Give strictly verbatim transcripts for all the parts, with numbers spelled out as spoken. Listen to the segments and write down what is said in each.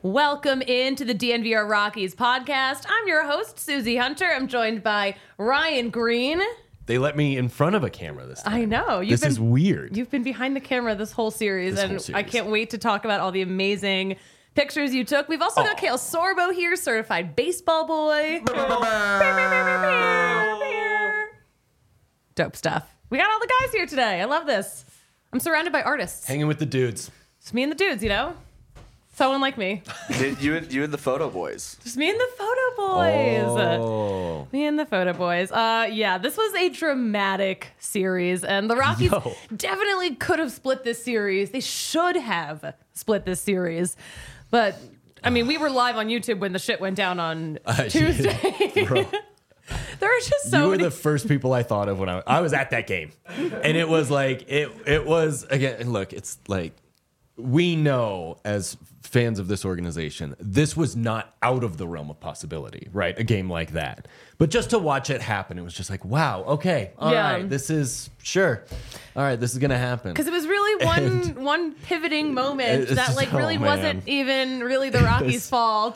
Welcome into the D N V R Rockies podcast. I'm your host, Susie Hunter. I'm joined by Ryan Green. They let me in front of a camera this time. I know. You've this been, is weird. You've been behind the camera this whole series, This and whole series. I can't wait to talk about all the amazing pictures you took. We've also Oh. got Kale Sorbo here, certified baseball boy. Dope stuff. We got all the guys here today. I love this. I'm surrounded by artists. Hanging with the dudes. It's me and the dudes, you know? Someone like me. you and you and the photo boys. Just me and the photo boys. Oh. Me and the photo boys. Uh, yeah, this was a dramatic series, and the Rockies Yo. definitely could have split this series. They should have split this series, but I mean, we were live on YouTube when the shit went down on Uh, Tuesday. Bro, There are just so you were many. the first people I thought of when I, I was at that game. And it was like, it, it was, again, look, it's like, we know as fans of this organization, this was not out of the realm of possibility, right? A game like that. But just to watch it happen, it was just like, wow, okay, all right, Yeah. this is, sure. All right, this is going to happen. Because it was really one And- one pivoting moment It's that just- like oh, really man. wasn't even really the Rockies' fault.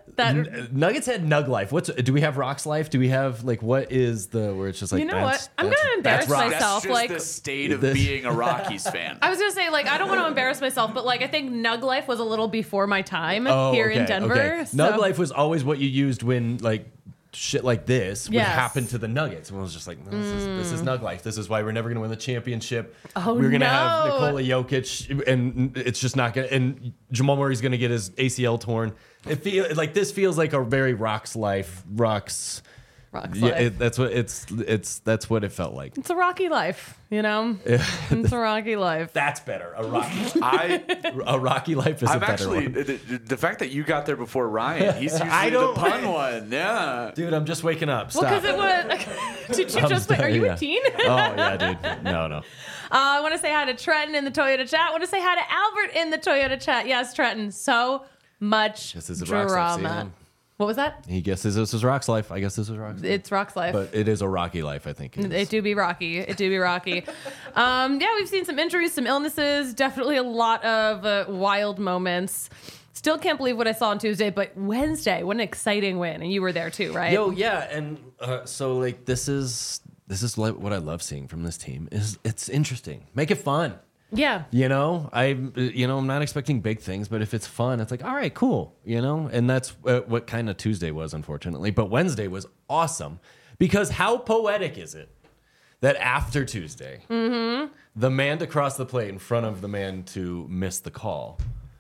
that Nuggets had Nug Life. What's do we have Rocks Life? Do we have like what is the where it's just like You know that's- what? I'm that's- gonna embarrass that's Rocks. myself. That's just like- the state of This- being a Rockies fan. I was gonna say, like, I don't want to embarrass myself, but like, I think Nug Life was a little before my time Oh, here in okay, Denver. okay. so- Nug Life was always what you used when like shit like this would Yes. happen to the Nuggets. And I was just like, no, this, is, this is Nug Life. This is why we're never gonna win the championship. Oh, we're gonna no. have Nikola Jokic, and it's just not gonna. And Jamal Murray's gonna get his A C L torn. It feel like this feels like a very Rocks Life. Rocks. Rocks Yeah, Life. it, that's what it's. It's that's what it felt like. It's a rocky life, you know. It's a rocky life. That's better. A rocky. I, A rocky life is a I'm better actually one. the, the fact that you got there before Ryan. He's usually I the don't- pun one. Yeah. Dude, I'm just waking up. Well, Stop. because it was. Did you I'm just? Wait, are sorry, you yeah. a teen? Oh yeah, dude. No, no. Uh, I want to say hi to Trenton in the Toyota chat. I want to say hi to Albert in the Toyota chat. Yes, Trenton. So much This is a Rocks Life, see drama. him? What was that? He guesses this is Rock's life. I guess this is Rock's life. It's Rock's life. But it is a rocky life, I think. It It is. do be rocky. It do be rocky. um, yeah, we've seen some injuries, some illnesses, definitely a lot of uh, wild moments. Still can't believe what I saw on Tuesday, but Wednesday, what an exciting win. And you were there too, right? Yo, yeah, and uh, so like this is this is like what I love seeing from this team is it's interesting. Make it fun. Yeah. You know, I you know I'm not expecting big things, but if it's fun, it's like all right, cool. You know, and that's uh, what kind of Tuesday was, unfortunately. But Wednesday was awesome because how poetic is it that after Tuesday, Mm-hmm. the man to cross the plate in front of the man to miss the call,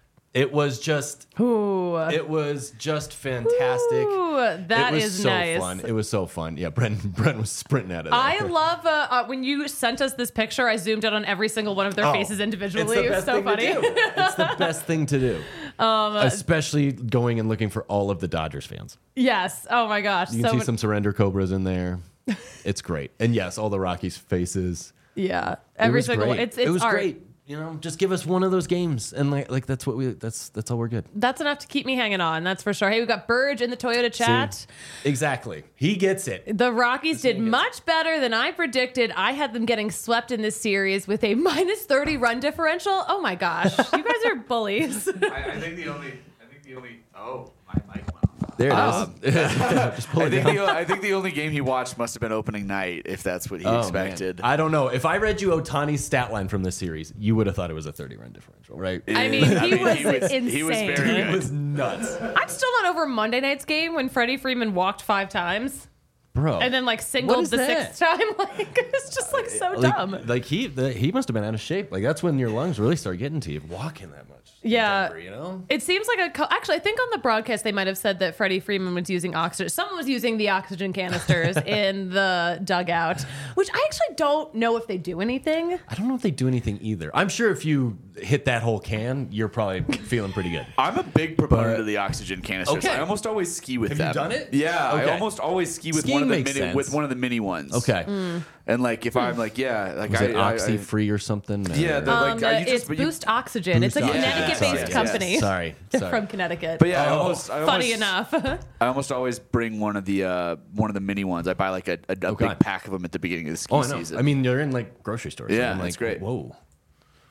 it was just Ooh. it was just fantastic. Ooh, that it was is so nice. fun. It was so fun. Yeah, Brent Brent was sprinting out of there. I love uh, uh, when you sent us this picture, I zoomed in on every single one of their Oh, faces individually. It's the It was best so thing funny. to do. It's the best thing to do. Um, Especially going and looking for all of the Dodgers fans. yes. Oh my gosh. You can so see many- some surrender cobras in there. It's great. And yes, all the Rockies faces. yeah. It Every was single great. one. It's, it's it was art. great. You know, just give us one of those games, and like, like that's what we. That's that's all we're good. That's enough to keep me hanging on. That's for sure. Hey, we've got Burge in the Toyota chat. See? Exactly. He gets it. The Rockies did team gets- much better than I predicted. I had them getting swept in this series with a minus thirty run differential. Oh my gosh. You guys are bullies. I, I think the only. I think the only. Oh, my mic went off. There it Oh. is. Just pull I it think, down. the, I think the only game he watched must have been opening night, if that's what he Oh, expected. man. I don't know. If I read you Otani's stat line from this series, you would have thought it was a thirty run differential, right? I mean, he was he was insane. very It good. was nuts. I'm still not over Monday night's game when Freddie Freeman walked five times Bro. and then like singled is the that? sixth time. Like it's just like so like, dumb. Like he the, he must have been out of shape. Like that's when your lungs really start getting to you walking that much. in Yeah. Denver, you know? It seems like a co- actually I think on the broadcast they might have said that Freddie Freeman was using oxygen. Someone was using the oxygen canisters in the dugout, which I actually don't know if they do anything. I don't know if they do anything either. I'm sure if you hit that whole can, you're probably feeling pretty good. I'm a big proponent But- of the oxygen canisters. Okay. I almost always ski with Have you them. done it? Yeah, Okay. I almost always ski with Skiing one of the makes mini sense. with one of the mini ones. Okay. And like if I'm like yeah, like Was I, it I- oxy I- free or something? Yeah, Or- the- Um, like, uh, you just- it's but you- Boost Oxygen. It's a Boost Oxygen. Connecticut-based Sorry, company. yes. Sorry. Sorry. From Connecticut. But yeah, I Oh. almost, I Funny almost, enough. I almost always bring one of the uh, one of the mini ones. I buy like a, a, a Okay. big pack of them at the beginning of the ski Oh, I know. season. I mean, you're in like grocery stores. Yeah, I'm like, that's great. Whoa.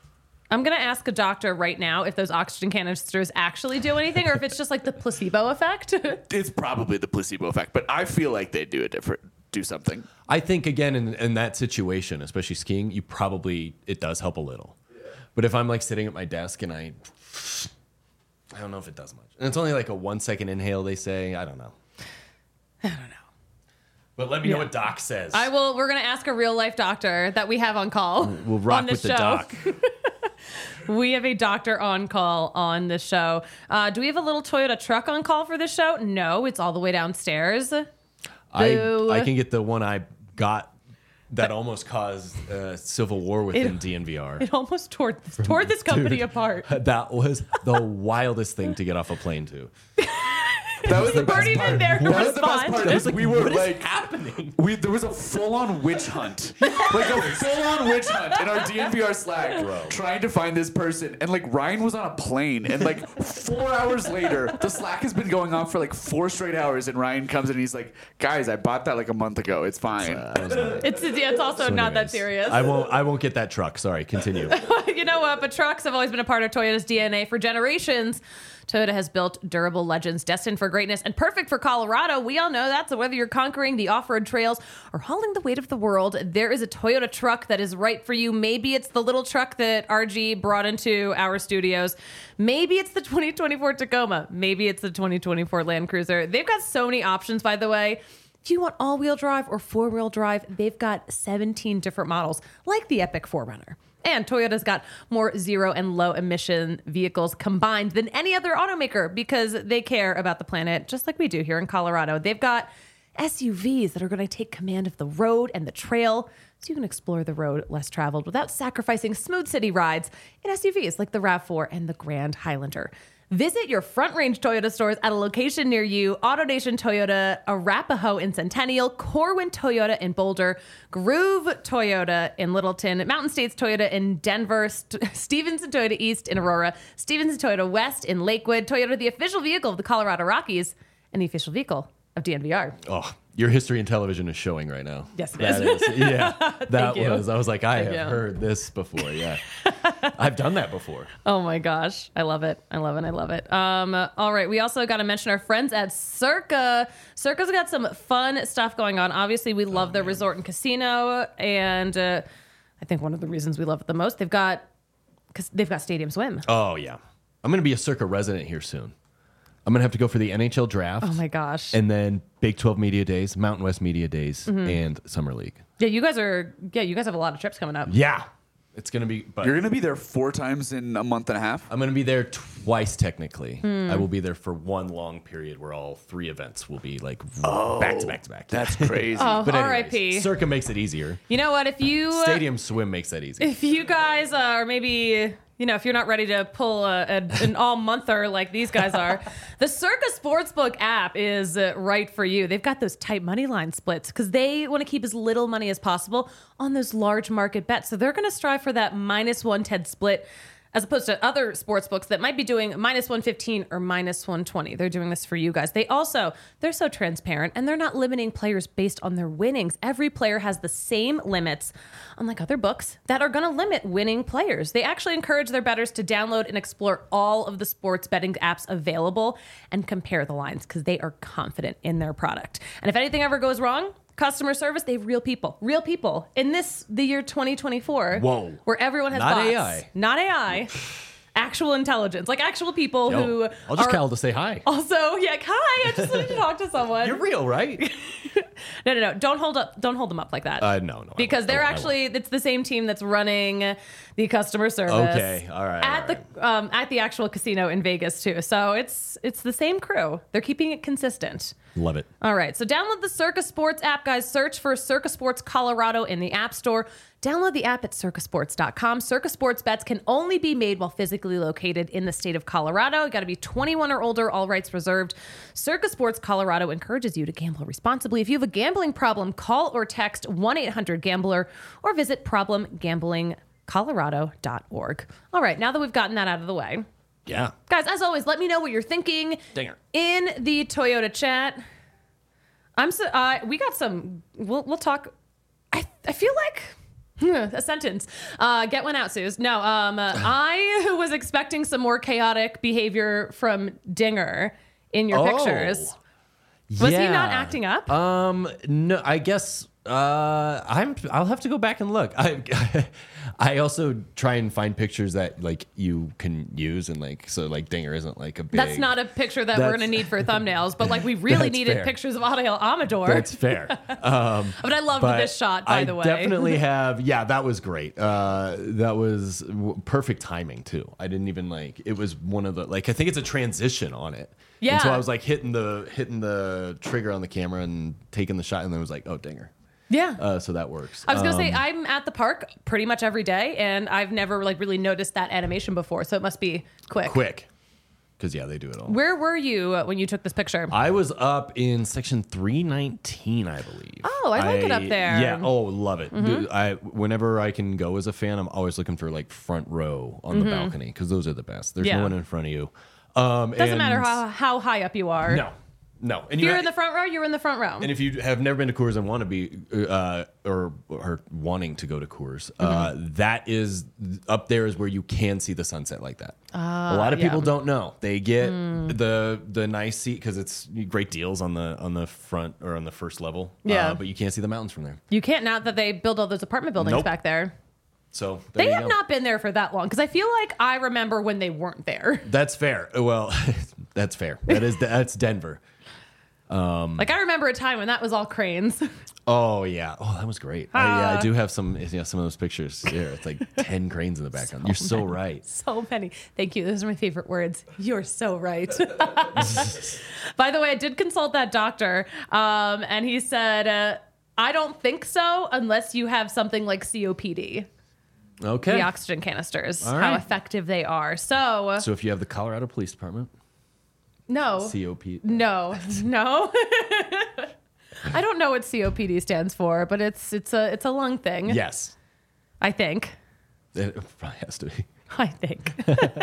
I'm going to ask a doctor right now if those oxygen canisters actually do anything or if it's just like the placebo effect. It's probably the placebo effect, but I feel like they do a different, do something. I think, again, in, in that situation, especially skiing, you probably, it does help a little. But if I'm like sitting at my desk and I, I don't know if it does much. And it's only like a one second inhale, they say. I don't know. I don't know. But let me Yeah. know what Doc says. I will. We're going to ask a real life doctor that we have on call. We'll rock on this with the show. Doc. We have a doctor on call on this show. Uh, do we have a little Toyota truck on call for this show? No, it's all the way downstairs. I, Boo. I can get the one I got that almost caused a civil war within It- D N V R. It almost tore, tore this company Dude, apart. That was the wildest thing to get off a plane to. That was the Weren't best even part. there to That was the best respond. part. It Is was we like, were what is like happening? We, there was a full-on witch hunt, like a full-on witch hunt in our D N V R Slack, Bro. trying to find this person. And like Ryan was on a plane, and like four hours later, the Slack has been going on for like four straight hours, and Ryan comes in and he's like, "Guys, I bought that like a month ago. It's fine." It's yeah, it's also So not that anyways, serious. I won't. I won't get that truck. Sorry. Continue. You know what? But trucks have always been a part of Toyota's D N A for generations. Toyota has built durable legends destined for greatness and perfect for Colorado. We all know that. So whether you're conquering the off-road trails or hauling the weight of the world, there is a Toyota truck that is right for you. Maybe it's the little truck that R G brought into our studios. Maybe it's the twenty twenty-four Tacoma. Maybe it's the twenty twenty-four Land Cruiser. They've got so many options, by the way. If you want all-wheel drive or four-wheel drive, they've got seventeen different models, like the Epic four runner. And Toyota's got more zero and low emission vehicles combined than any other automaker because they care about the planet just like we do here in Colorado. They've got S U Vs that are going to take command of the road and the trail so you can explore the road less traveled without sacrificing smooth city rides in S U Vs like the RAV four and the Grand Highlander. Visit your Front Range Toyota stores at a location near you. AutoNation Toyota, Arapahoe in Centennial, Corwin Toyota in Boulder, Groove Toyota in Littleton, Mountain States Toyota in Denver, St- Stevenson Toyota East in Aurora, Stevenson Toyota West in Lakewood, Toyota, the official vehicle of the Colorado Rockies, and the official vehicle of D N V R. Oh, your history in television is showing right now. Yes, it That is. is. Yeah, that you. was. I was like, I Thank have you. heard this before. Yeah, I've done that before. Oh my gosh. I love it. I love it. I love it. Um, all right. We also got to mention our friends at Circa. Circa's got some fun stuff going on. Obviously, we love their resort and casino. And uh, I think one of the reasons we love it the most, they've got, because they've got Stadium Swim. Oh yeah, I'm gonna be a Circa resident here soon. I'm gonna have to go for the N H L draft. Oh my gosh. And then Big twelve Media Days, Mountain West Media Days, Mm-hmm. and Summer League. Yeah, you guys are, yeah, you guys have a lot of trips coming up. Yeah, it's gonna be. But You're gonna be there four times in a month and a half. I'm gonna be there twice technically. Hmm. I will be there for one long period where all three events will be like back to back to back. That's crazy. Oh, But R I anyways, P. Circa makes it easier. You know what? If you, Stadium Swim makes that easy. if you guys uh, are maybe, you know, if you're not ready to pull a, a, an all-monther like these guys are, the Circa Sportsbook app is uh, right for you. They've got those tight money line splits because they want to keep as little money as possible on those large market bets. So they're going to strive for that minus one ten split as opposed to other sports books that might be doing minus one fifteen or minus one twenty. They're doing this for you guys. They also, they're so transparent and they're not limiting players based on their winnings. Every player has the same limits, unlike other books that are going to limit winning players. They actually encourage their bettors to download and explore all of the sports betting apps available and compare the lines because they are confident in their product. And if anything ever goes wrong, customer service, they have real people. Real people. In this, the year twenty twenty-four, Whoa. where everyone has Not bots. A I. Not A I. Actual intelligence. Like actual people Yo, who I'll just are call to say hi. also, yeah, hi, I just wanted to talk to someone. You're real, right? No, no, no. Don't hold up don't hold them up like that. Uh, no, no. I Because won't. they're I won't. actually it's the same team that's running the customer service. Okay, all right, At all the um, at the actual casino in Vegas too. So it's it's the same crew. They're keeping it consistent. Love it. All right, so download the Circa Sports app, guys. Search for Circa Sports Colorado in the App Store. Download the app at circa sports dot com. Circa Sports bets can only be made while physically located in the state of Colorado. You got to be twenty-one or older, all rights reserved. Circa Sports Colorado encourages you to gamble responsibly. If you have a gambling problem, call or text one eight hundred gambler or visit problem gambling colorado dot org. All right, now that we've gotten that out of the way, Yeah. guys, as always, let me know what you're thinking Dinger. in the Toyota chat. I'm so uh, we got some. We'll we'll talk. I I feel like A sentence. Uh, get one out, Suze. No, um, uh, I was expecting some more chaotic behavior from Dinger in your Oh. pictures. Was he not acting up? Um, no, I guess uh, I'm. I'll have to go back and look. I, I also try and find pictures that like you can use and like so like Dinger isn't like a big. That's not a picture that we're That's- going to need for thumbnails, but like we really That's needed fair. pictures of Ariel Amador. That's fair. Um, but I loved but this shot, by I the way. definitely have. Yeah, that was great. Uh, that was w- perfect timing too. I didn't even like. It was one of the like. I think it's a transition on it. Yeah. And so I was like hitting the hitting the trigger on the camera and taking the shot, and then it was like, oh, Dinger. Yeah. Uh, so that works. I was gonna Um, say I'm at the park pretty much every day, and I've never like really noticed that animation before, so it must be quick. quick, because yeah, they do it all. Where were you uh, when you took this picture? I was up in section three nineteen, I believe. Oh, I like it up there. Mm-hmm. Yeah. Oh, love it. Dude, I whenever I can go as a fan, I'm always looking for like front row on the balcony because those are the best. There's Mm-hmm. Yeah. no one in front of you. Um, Doesn't and- matter how, how high up you are. No, no. And If you you're ha- in the front row, you're in the front row. And if you have never been to Coors and want to be, uh, or or wanting to go to Coors, uh, Mm-hmm. that is up there is where you can see the sunset like that. a lot of yeah. people don't know. They get the the nice seat because it's great deals on the on the front or on the first level. Yeah. uh, but you can't see the mountains from there. You can't now that they build all those apartment buildings Nope. back there. So there They you have go. not been there for that long because I feel like I remember when they weren't there. That's fair. Well, that's fair. That is that's Denver. Like I remember a time when that was all cranes. Oh yeah. Oh, that was great. I, yeah, Ah. I do have some. Yeah, some of those pictures. Yeah, it's like ten cranes in the background. You're so right. So many. Thank you. Those are my favorite words. You're so right. By the way, I did consult that doctor, um, and he said, uh, I don't think so unless you have something like C O P D. Okay. The oxygen canisters, All how right. effective they are. So, So if you have the Colorado Police Department, no. C O P. No, no. I don't know what C O P D stands for, but it's it's a it's a lung thing. Yes. I think. It probably has to be. I think.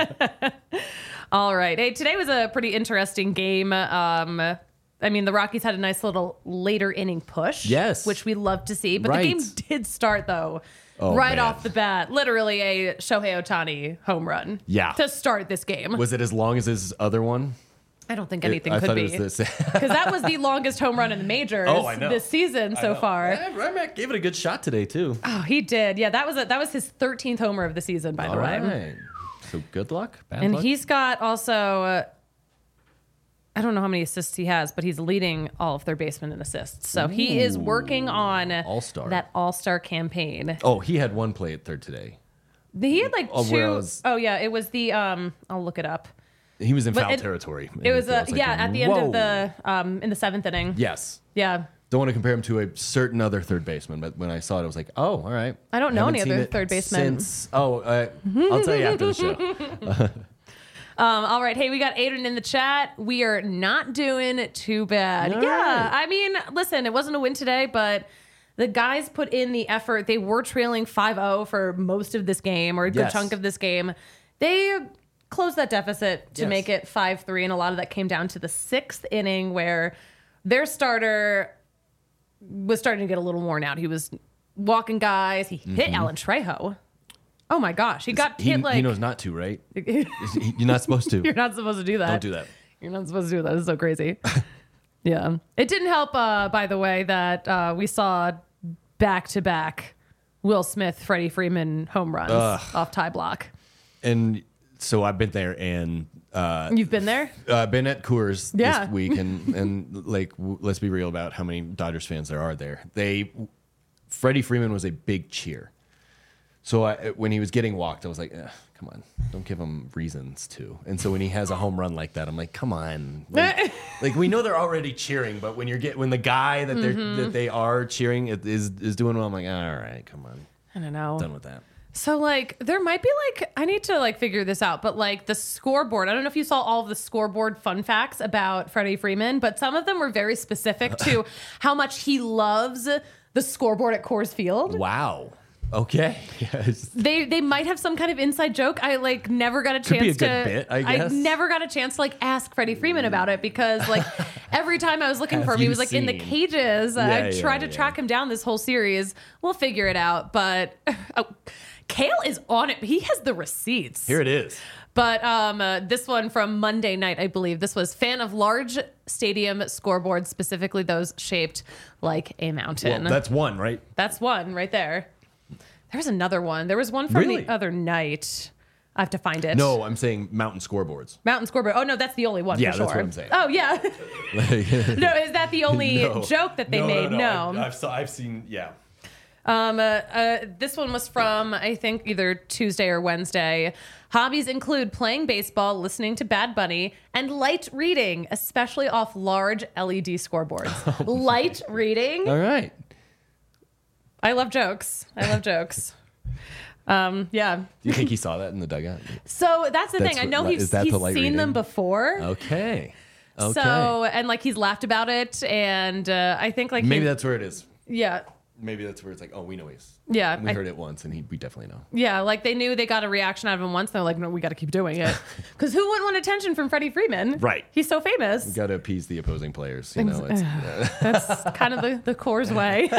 All right. Hey, today was a pretty interesting game. Um, I mean, the Rockies had a nice little later inning push. Yes. Which we love to see. But Right. the game did start, though, Oh, right man. off the bat. Literally a Shohei Ohtani home run. Yeah. To start this game. Was it as long as his other one? I don't think anything I could thought be. it was this. Because that was the longest home run in the majors Oh, I know. this season so far. Yeah, Rymack gave it a good shot today too. Oh, he did. Yeah, that was a, that was his thirteenth homer of the season, by the All way. right. So good luck. Bad And luck. he's got also, uh, I don't know how many assists he has, but he's leading all of third basemen in assists. So he is working on All-star. that all-star campaign. Oh, he had one play at third today. He had like Oh, two where oh I was- yeah, it was the um. I'll look it up. He was in But foul it- territory. It was I uh, like, yeah at the end whoa. of the um in the seventh inning. Yes. Yeah. Don't want to compare him to a certain other third baseman, but when I saw it, I was like, oh, all right. I don't know Haven't any seen other it third basemen. Since, oh, uh, I'll tell you after the show. Um, all right. Hey, we got Aiden in the chat. We are not doing too bad. All yeah. right. I mean, listen, it wasn't a win today, but the guys put in the effort. They were trailing five oh for most of this game or a good Yes. chunk of this game. They closed that deficit to Yes. make it five three, and a lot of that came down to the sixth inning where their starter was starting to get a little worn out. He was walking guys. He hit Alan Trejo. Oh my gosh. He got Mm-hmm. He, hit like he knows not to, right? Is he- You're not supposed to. you're not supposed to do that. Don't do that. You're not supposed to do that. It's so crazy. Yeah. It didn't help, uh, by the way, that uh, we saw back to back Will Smith, Freddie Freeman home runs Ugh. off tie block. And so I've been there and uh, You've been there? uh, been at Coors Yeah. this week, and and like w- let's be real about how many Dodgers fans there are there. They, Freddie Freeman was a big cheer. So I, when he was getting walked, I was like, "Ugh, come on, don't give him reasons to. And so when he has a home run like that, I'm like, come on, like, like we know they're already cheering, but when you're get when the guy that they're Mm-hmm. that they are cheering is is doing well, I'm like, all right, come on, I don't know. done with that. So like there might be like I need to like figure this out, but like the scoreboard. I don't know if you saw all of the scoreboard fun facts about Freddie Freeman, but some of them were very specific to how much he loves the scoreboard at Coors Field. Wow. Okay. Yes. They they might have some kind of inside joke. I like never got a chance be a to good bit, I guess. never got a chance to like ask Freddie Freeman about it because like Every time I was looking Have for him, he you was like in the seen? cages. Yeah, I yeah, tried to yeah. track him down this whole series. We'll figure it out. But oh, Kale is on it. He has the receipts. Here it is. But um, uh, this one from Monday night, I believe. This was fan of large stadium scoreboards, specifically those shaped like a mountain. Well, that's one, right? That's one right there. There was another one. There was one from Really? the other night. I have to find it. No, I'm saying mountain scoreboards. Mountain scoreboard. Oh, no, that's the only one Yeah, for sure. that's what I'm saying. Oh, yeah. No, is that the only No. joke that they made? No. I've, I've, saw, I've seen, yeah. Um, uh, uh, this one was from, I think, either Tuesday or Wednesday. Hobbies include playing baseball, listening to Bad Bunny, and light reading, especially off large L E D scoreboards. Light reading? All right. I love jokes. I love jokes. Um, yeah. Do you think he saw that in the dugout? So that's the That's thing. I what know li- he's, is that he's the light seen them reading? before. Okay. Okay. So, and like he's laughed about it. And uh, I think like Maybe he- that's where it is. yeah. Maybe that's where it's like, oh, we know he's. Yeah. We I- heard it once, and he, we definitely know. Yeah, like they knew they got a reaction out of him once. They're like, no, we got to keep doing it. Because who wouldn't want attention from Freddie Freeman? Right. He's so famous. Got to appease the opposing players. You know, it's, That's kind of the, the Coors way.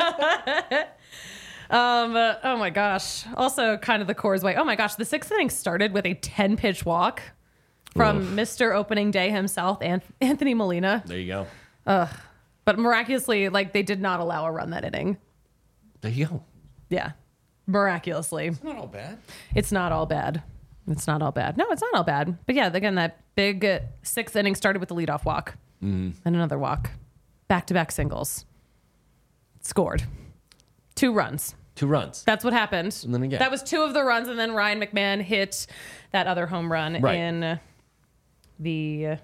um, uh, oh my gosh. Also kind of the Coors way. Oh my gosh. The sixth inning started with a ten pitch walk from Oof. Mister Opening Day himself, An- Anthony Molina. there you go. But miraculously, like they did not allow a run that inning. There you go. Yeah. Miraculously. Not all bad. It's not all bad. It's not all bad. No, it's not all bad. But yeah, again, that big uh, sixth inning started with the leadoff walk and another walk, back to back singles. Scored two runs. Two runs. That's what happened. And then again. That was two of the runs, and then Ryan McMahon hit that other home run Right. in uh, the uh,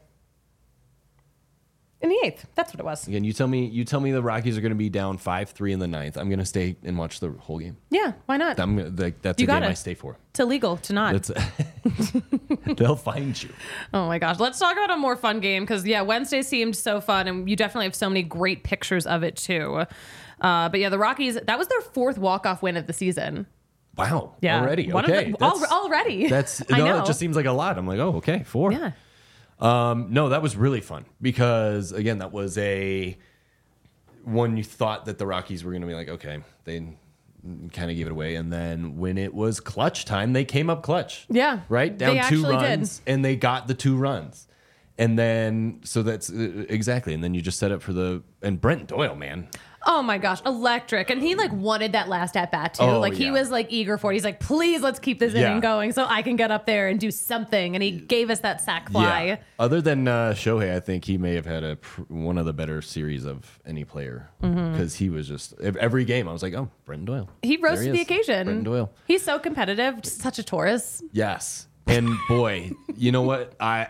in the eighth. That's what it was. Again, you tell me. You tell me the Rockies are going to be down five three in the ninth. I'm going to stay and watch the whole game. Yeah, why not? I'm gonna, like, that's You a game gotta. I stay for. It's illegal to not. That's they'll find you. Oh my gosh. Let's talk about a more fun game because, yeah, Wednesday seemed so fun and you definitely have so many great pictures of it too. Uh, but yeah, the Rockies, that was their fourth walk-off win of the season. Wow. Yeah. Already. One of Okay. the- al- That's- already. That's I no. know. It just seems like a lot. I'm like, oh, okay, four. Yeah. Um, no, that was really fun because again, that was a one you thought that the Rockies were going to be like, okay, they kind of gave it away, and then when it was clutch time, they came up clutch. Yeah. Right, They down two actually did. runs, and they got the two runs, and then so that's uh, exactly, and then you just set up for the and Brent Doyle, man. Oh my gosh, electric. And he like wanted that last at bat too. Oh, like he yeah. was like eager for it. He's like, please let's keep this Yeah. inning going so I can get up there and do something. And he gave us that sack fly. Yeah. Other than uh, Shohei, I think he may have had a pr- one of the better series of any player because he was just ev- every game. I was like, oh, Brenton Doyle. He There rose to the is. occasion. Brenton Doyle. He's so competitive, just such a Taurus. Yes, and boy, you know what? I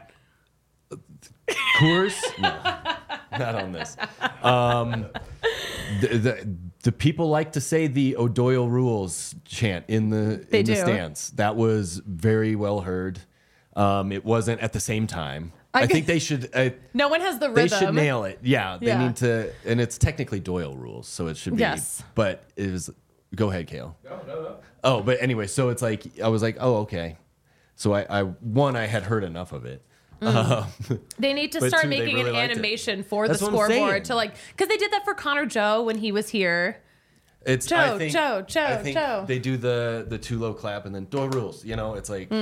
Coors, no, not on this. Um, the, the the people like to say the O'Doyle rules chant in the They in the do. stands. That was very well heard. Um, it wasn't at the same time. I I, g- think they should. Uh, No one has the They rhythm. should nail it. Yeah, they Yeah. need to, and it's technically Doyle rules, so it should be. Yes. But it was. Go ahead, Kale. No, no, no. Oh, but anyway, so it's like I was like, oh, okay. So I, I one, I had heard enough of it. Um, They need to But start two, they making really an liked it. animation for That's the what I'm saying. scoreboard to like, because they did that for Connor Joe when he was here. it's Joe, I think, Joe, Joe, I think Joe. They do the the too low clap and then Doyle rules. You know, it's like.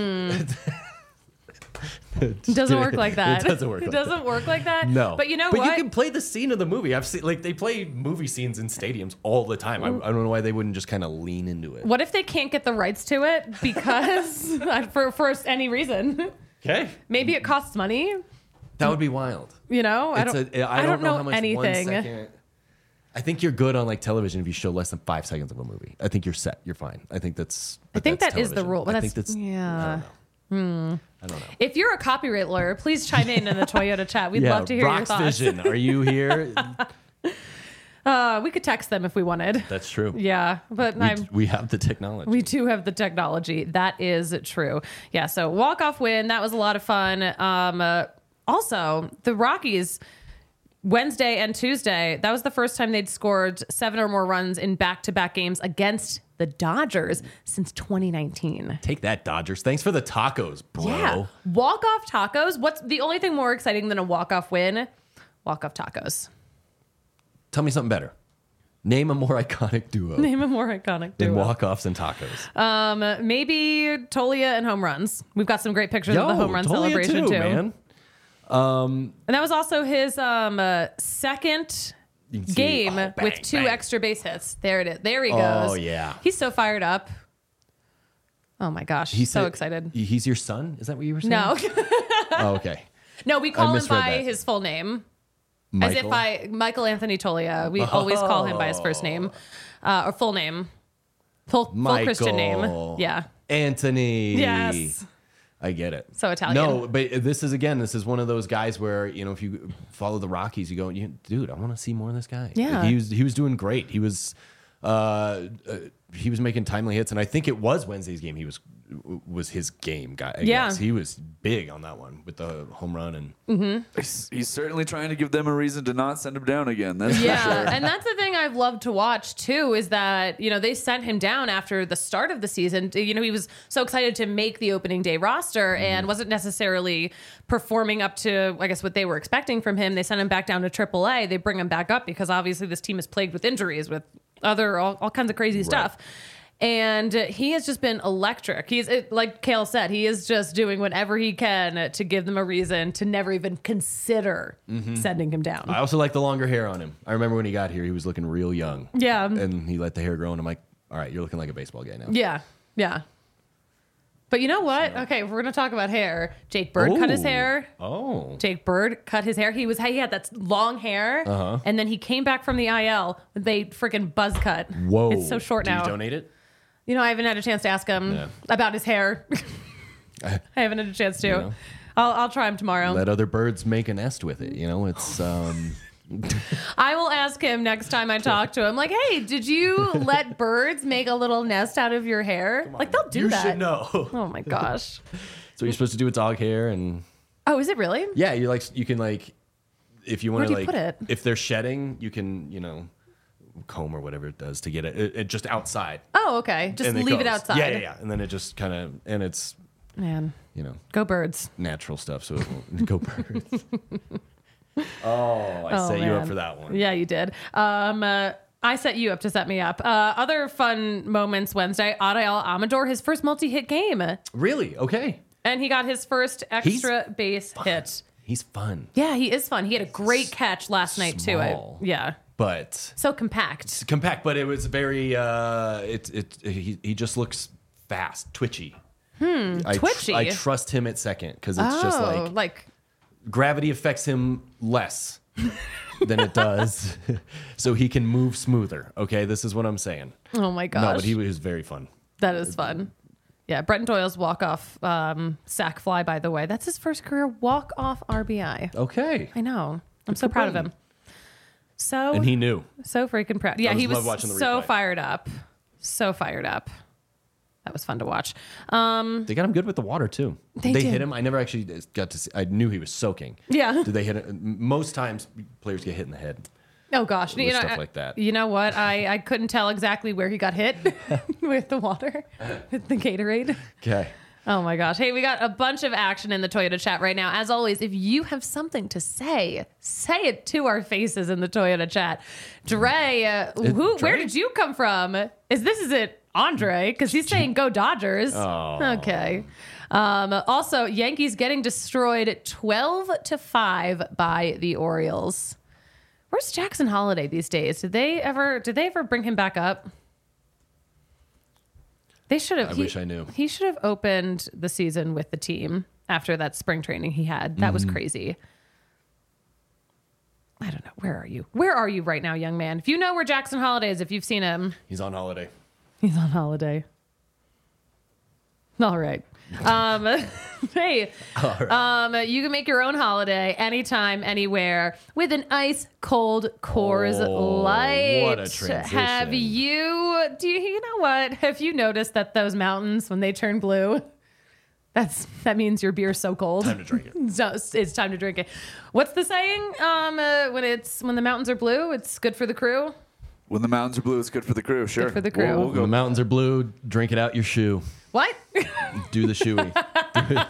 It doesn't work like that. It doesn't work. It like doesn't work like that. that. No, But you know but what? you can play the scene of the movie. I've seen like they play movie scenes in stadiums all the time. I, I don't know why they wouldn't just kind of lean into it. What if they can't get the rights to it because for for any reason? Okay, Maybe it costs money. that would be wild. You know, I It's don't. a, I don't, know, how much anything. One second, I think you're good on like television if you show less than five seconds of a movie. I think you're set. You're fine. I think that's. I think that's that is the television. rule, but I that's- think that's. yeah. I don't know. Hmm. I don't know. If you're a copyright lawyer, please chime in in the Toyota chat. We'd yeah, love to hear Rox your thoughts. Vision, are you here? Uh, we could text them if we wanted. That's true. Yeah, but We, I'm. we have the technology. We do have the technology. That is true. Yeah. So walk off win. That was a lot of fun. Um, uh, also, the Rockies Wednesday and Tuesday. That was the first time they'd scored seven or more runs in back-to-back games against the Dodgers since twenty nineteen. Take that, Dodgers. Thanks for the tacos, bro. Yeah. Walk off tacos. What's the only thing more exciting than a walk off win? walk-off tacos. Tell me something better. Name a more iconic duo Name a more iconic duo. than walk-offs and tacos. Um, maybe Tolia and home runs. We've got some great pictures Yo, of the home run Tolia celebration too, too. man. And that was also his um, uh, second You can see- game oh, bang, with two bang. extra base hits. There it is. There he goes. Oh, yeah. He's so fired up. Oh my gosh. He's so said- excited. He's your son? Is that what you were saying? No. Oh, okay. No, we call him misread by that. his full name. Michael? As if I, Michael Anthony Tolia. We always call him by his first name uh, or full name. Full, full Christian name. Michael. Yeah. Anthony. Yes. I get it. So Italian. No, but this is, again, this is one of those guys where, you know, if you follow the Rockies, you go, dude, I want to see more of this guy. Yeah. He was, he was doing great. He was, uh, uh, he was making timely hits. And I think it was Wednesday's game. He was, was his game guy. I Yeah. guess. He was big on that one with the home run. And He's, he's certainly trying to give them a reason to not send him down again. That's for Yeah, sure. and that's the thing I've loved to watch too is that, you know, they sent him down after the start of the season. You know, he was so excited to make the opening day roster Mm-hmm. and wasn't necessarily performing up to, I guess, what they were expecting from him. They sent him back down to triple A. They bring him back up because obviously this team is plagued with injuries, with other, all, all kinds of crazy stuff. And uh, he has just been electric. He's it, like Kale said, he is just doing whatever he can to give them a reason to never even consider Mm-hmm. sending him down. I also like the longer hair on him. I remember when he got here, he was looking real young. Yeah. And he let the hair grow, and I'm like, all right, you're looking like a baseball guy now. Yeah, yeah. But you know what? Okay, if we're gonna talk about hair. Jake Bird cut his Ooh. hair. Oh. Jake Bird cut his hair. He was he had that long hair, Uh-huh. and then he came back from the I L with a freaking buzz cut. Whoa. It's so short Did now. you donate it? You know, I haven't had a chance to ask him Yeah. about his hair. I haven't had a chance to. know. I'll I'll try him tomorrow. Let other birds make a nest with it. You know, it's um I will ask him next time I talk to him. Like, hey, did you let birds make a little nest out of your hair? Like they'll do you that. should know. Oh my gosh. So you're supposed to do with dog hair, and Oh, is it really? yeah, you like you can like if you want to Where'd you like put it? if they're shedding, you can you know comb or whatever it does to get it, it, it just outside. Oh, okay. Just and leave it goes. outside. Yeah, yeah, yeah, and then it just kind of and it's Man, you know go birds. natural stuff, so it won't go birds. Oh, I Oh, set you up man. for that one. Yeah, you did. Um, uh, I set you up to set me up. Uh, other fun moments Wednesday. Adael Amador, his first multi-hit game, Really? Okay. and he got his first extra base hit. He's fun, Yeah, he is fun. He had a great catch last night too. I, Small. yeah, but so compact. it's compact. But it was very. Uh, it it he, he just looks fast, twitchy. Hmm. I tr- twitchy? I trust him at second because it's oh, just like like gravity affects him less than it does, so he can move smoother. Okay, this is what I'm saying. oh my gosh, No, but he was very fun. that is fun. Yeah, Brenton Doyle's walk-off um, sack fly, by the way, that's his first career walk-off R B I. Okay, I know. I'm so for proud of Brenton. him. So and he knew. So freaking proud. Yeah, I he just was love watching the so replay. fired up. So fired up. That was fun to watch. Um, They got him good with the water too. They Did they did. hit him. I never actually got to see. I knew he was soaking. Yeah. Did they hit him? Most times players get hit in the head. oh gosh, you With know, stuff I- like that. You know what? I, I couldn't tell exactly where he got hit with the water, with the Gatorade. Okay. Oh my gosh. Hey, we got a bunch of action in the Toyota chat right now. As always, if you have something to say, say it to our faces in the Toyota chat. Dre, uh, who, Dre? where did you come from? Is this is it Andre? Because he's saying go Dodgers. Oh. Okay. Um, also, Yankees getting destroyed twelve to five by the Orioles. Where's Jackson Holiday these days? Did they ever did they ever bring him back up? They should have. I he- wish I knew. He should have opened the season with the team after that spring training he had. That Mm-hmm. was crazy. I don't know. Where are you? Where are you right now, young man? If you know where Jackson Holiday is, if you've seen him, He's on holiday. he's on holiday. All right. Um, hey, um, you can make your own holiday anytime, anywhere with an ice cold Coors Oh, Light. what a transition. Have you? Do you, you know what? Have you noticed that those mountains, when they turn blue, that's that means your beer's so cold. Time to drink it. So it's, it's time to drink it. What's the saying? Um, uh, when it's when the mountains are blue, it's good for the crew. When the mountains are blue, it's good for the crew. Sure. for the We'll- crew. We'll When go. the mountains are blue, drink it out your shoe. What? Do the shoey. Do it.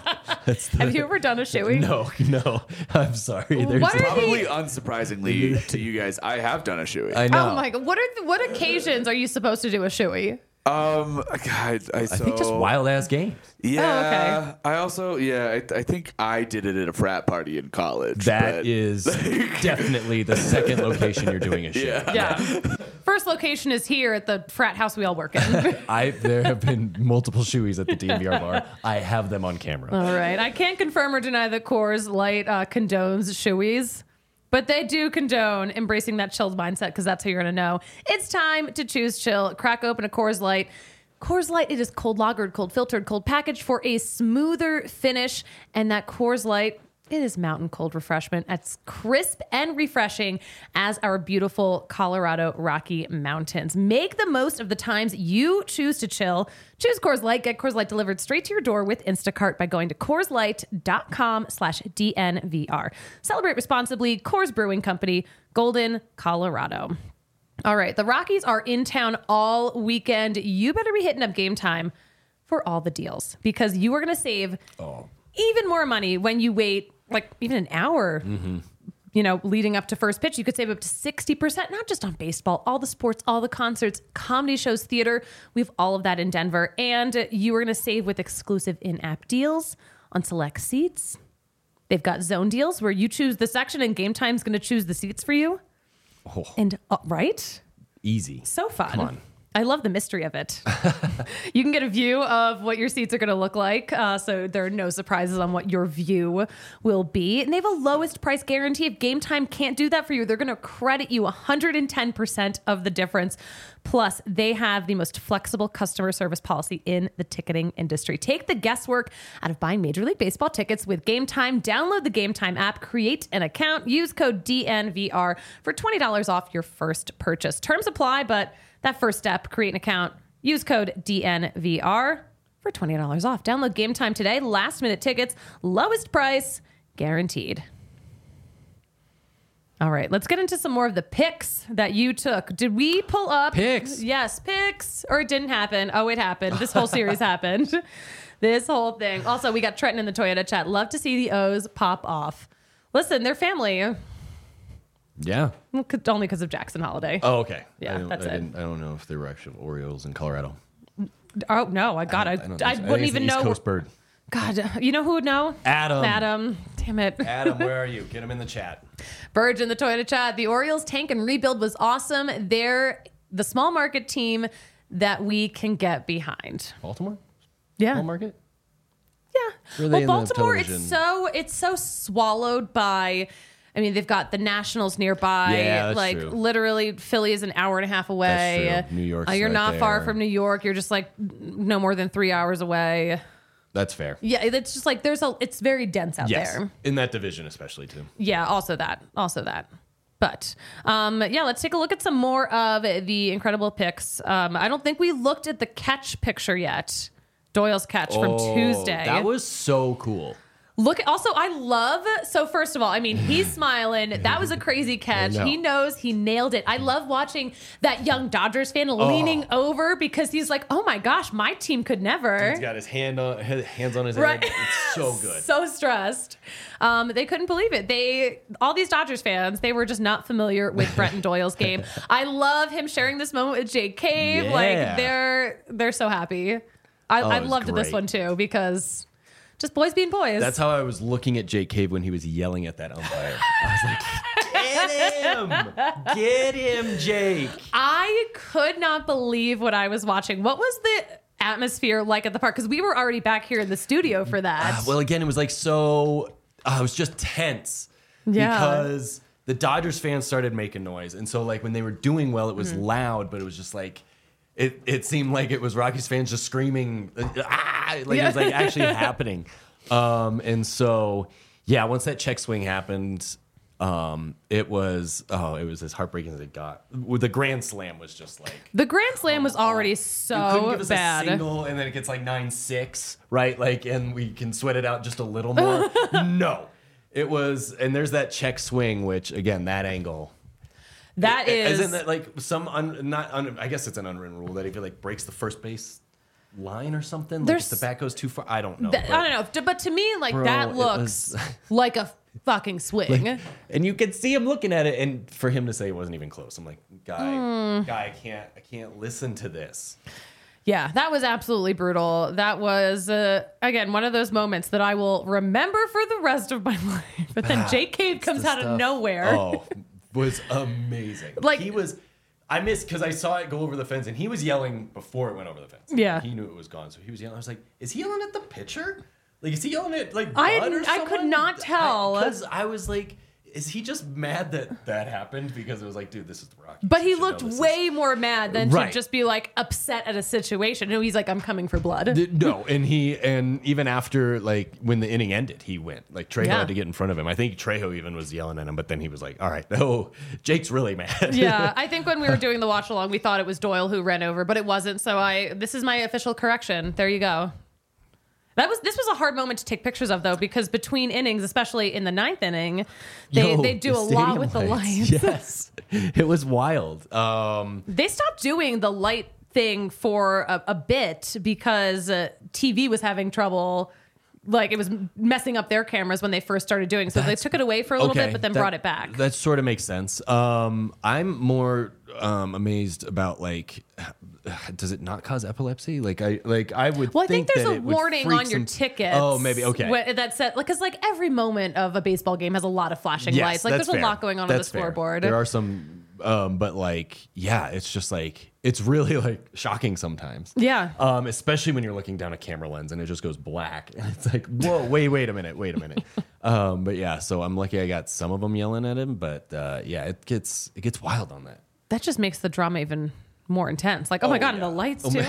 That's the, Have you ever done a shoey? No, no. I'm sorry. There's What are Probably the- unsurprisingly to you guys, I have done a shoey. I know. Oh my god! What are the, what occasions are you supposed to do a shoey? Um, God, I, so, I think just wild ass games. Yeah. I also, yeah, I, I think I did it at a frat party in college. That but- is definitely the second location you're doing a show. Yeah. Yeah. First location is here at the frat house we all work in. I there have been multiple shoeys at the D M V R bar. I have them on camera. All right. I can't confirm or deny that Coors Light uh, condones shoeys, but they do condone embracing that chilled mindset because that's how you're going to know. It's time to choose chill. Crack open a Coors Light. Coors Light, it is cold lagered, cold filtered, cold packaged for a smoother finish. And that Coors Light, it is mountain cold refreshment. It's crisp and refreshing as our beautiful Colorado Rocky Mountains. Make the most of the times you choose to chill. Choose Coors Light. Get Coors Light delivered straight to your door with Instacart by going to CoorsLight.com slash DNVR. Celebrate responsibly. Coors Brewing Company, Golden, Colorado. All right, the Rockies are in town all weekend. You better be hitting up Game Time for all the deals because you are going to save Oh. even more money when you wait like even an hour, Mm-hmm. you know, leading up to first pitch. You could save up to sixty percent, not just on baseball, all the sports, all the concerts, comedy shows, theater. We have all of that in Denver. And you are going to save with exclusive in-app deals on select seats. They've got zone deals where you choose the section and Game Time's going to choose the seats for you. Oh, And uh, right? easy. So fun. Come on. I love the mystery of it. You can get a view of what your seats are going to look like. Uh, so there are no surprises on what your view will be. And they have a lowest price guarantee. If Game Time can't do that for you, they're going to credit you one hundred ten percent of the difference. Plus, they have the most flexible customer service policy in the ticketing industry. Take the guesswork out of buying Major League Baseball tickets with Game Time. Download the Game Time app, create an account, use code D N V R for twenty dollars off your first purchase. Terms apply, but that first step, create an account, use code D N V R for twenty dollars off. Download Game Time today. Last minute tickets, lowest price, guaranteed. All right, let's get into some more of the picks that you took. Did we pull up Picks? Yes, picks, or it didn't happen. Oh, it happened. This whole series happened. This whole thing. Also, we got Trenton in the Toyota chat. Love to see the O's pop off. Listen, they're family. Yeah. Only because of Jackson Holiday. Oh, okay. Yeah, I don't, that's I it. Didn't, I don't know if they were actual Orioles in Colorado. Oh no, I got. I, I, don't think I, so. think wouldn't it's even an East know. Coast bird. God, you know who would know? Adam. Adam. Damn it. Adam, where are you? Get him in the chat. Burge in the Toyota chat. The Orioles tank and rebuild was awesome. They're the small market team that we can get behind. Baltimore? Yeah. Small market? Yeah. Were they Well, in the Baltimore, it's television? so it's so swallowed by. I mean, they've got the Nationals nearby. Yeah, that's like true. literally, Philly is an hour and a half away. That's true. New York's Uh, you're right not far there. from New York. You're just like no more than three hours away. That's fair. Yeah, it's just like there's a. It's very dense out Yes. there. In that division, especially, too. Yeah, also that. Also that. But um, yeah, let's take a look at some more of the incredible picks. Um, I don't think we looked at the catch picture yet. Doyle's catch from Oh, Tuesday. That was so cool. Look, also, I love, so first of all, I mean, he's smiling. That was a crazy catch. know. He knows he nailed it. I love watching that young Dodgers fan leaning over because he's like, oh my gosh, my team could never. He's got his hand on his hands on his Right. head. It's so good. So stressed. Um, they couldn't believe it. They, all these Dodgers fans, they were just not familiar with Brenton Doyle's game. I love him sharing this moment with Jake Cave. Yeah. Like they're, they're so happy. I, Oh, I it was loved this great. one too because just boys being boys. That's how I was looking at Jake Cave when he was yelling at that umpire. I was like, get him! Get him, Jake! I could not believe what I was watching. What was the atmosphere like at the park? Because we were already back here in the studio for that. Uh, well, again, it was like so, uh, it was just tense. Yeah. Because the Dodgers fans started making noise. And so, like, when they were doing well, it was Mm-hmm. loud, but it was just like, it, it seemed like it was Rockies fans just screaming, uh, ah! Like, it was like actually happening. Um, and so, yeah, once that check swing happened, um, it was, oh, it was as heartbreaking as it got. The Grand Slam was just like, The Grand Slam was already you couldn't so give us bad. a single and then it gets like nine six, right? Like, and we can sweat it out just a little more. No, it was, and there's that check swing, which again, that angle. That is, Isn't that like some, un, not, un, I guess it's an unwritten rule that if it like breaks the first base line or something? Like There's- if the bat goes too far, I don't know. Th- but- I don't know, D- but to me, like Bro, that it looks was- like a fucking swing. And you could see him looking at it, and for him to say it wasn't even close, I'm like, guy, Hmm. guy, I can't, I can't listen to this. Yeah, that was absolutely brutal. That was, uh, again, one of those moments that I will remember for the rest of my life. But then Jake Cave comes The out of stuff- nowhere. Oh, was amazing. Like- he was. I missed because I saw it go over the fence, and he was yelling before it went over the fence. Yeah. he knew it was gone, so he was yelling. I was like, "Is he yelling at the pitcher? Like, is he yelling at like I- Bud or I could someone?" not tell. Because I, I was like, "Is he just mad that that happened?" Because it was like, "Dude, this is the Rockies." But he You should know looked this is- way more mad than Right. to just be like upset at a situation. No, he's like, I'm coming for blood. Th- No, and he and even after like when the inning ended, he went. Like Trejo Yeah. had to get in front of him. I think Trejo even was yelling at him, but then he was like, "All right, oh, Jake's really mad." Yeah, I think when we were doing the watch along, we thought it was Doyle who ran over, but it wasn't. So I, this is my official correction. There you go. That was this was a hard moment to take pictures of though, because between innings, especially in the ninth inning, they Yo, they do the a lot stadium with the lights. Yes, it was wild. Um, They stopped doing the light thing for a, a bit because uh, T V was having trouble. Like it was messing up their cameras when they first started doing. So they took it away for a little bit, but then that- brought it back. That sort of makes sense. Um, I'm more um, amazed about like, does it not cause epilepsy? Like I like I would. Well, I think, think there's that a it would warning freak on your some- tickets. Oh, maybe okay. wh- That said, like, because like every moment of a baseball game has a lot of flashing Yes, lights. Like that's there's a fair. lot going on That's on the fair. scoreboard. There are some, um, but like, yeah, it's just like it's really like shocking sometimes. Yeah. Um, especially when you're looking down a camera lens and it just goes black, and it's like, whoa, wait, wait a minute, wait a minute. um, but yeah, so I'm lucky I got some of them yelling at him, but uh, yeah, it gets it gets wild on that. That just makes the drama even more intense. Like, oh, my Oh, god, yeah. and the lights Oh too.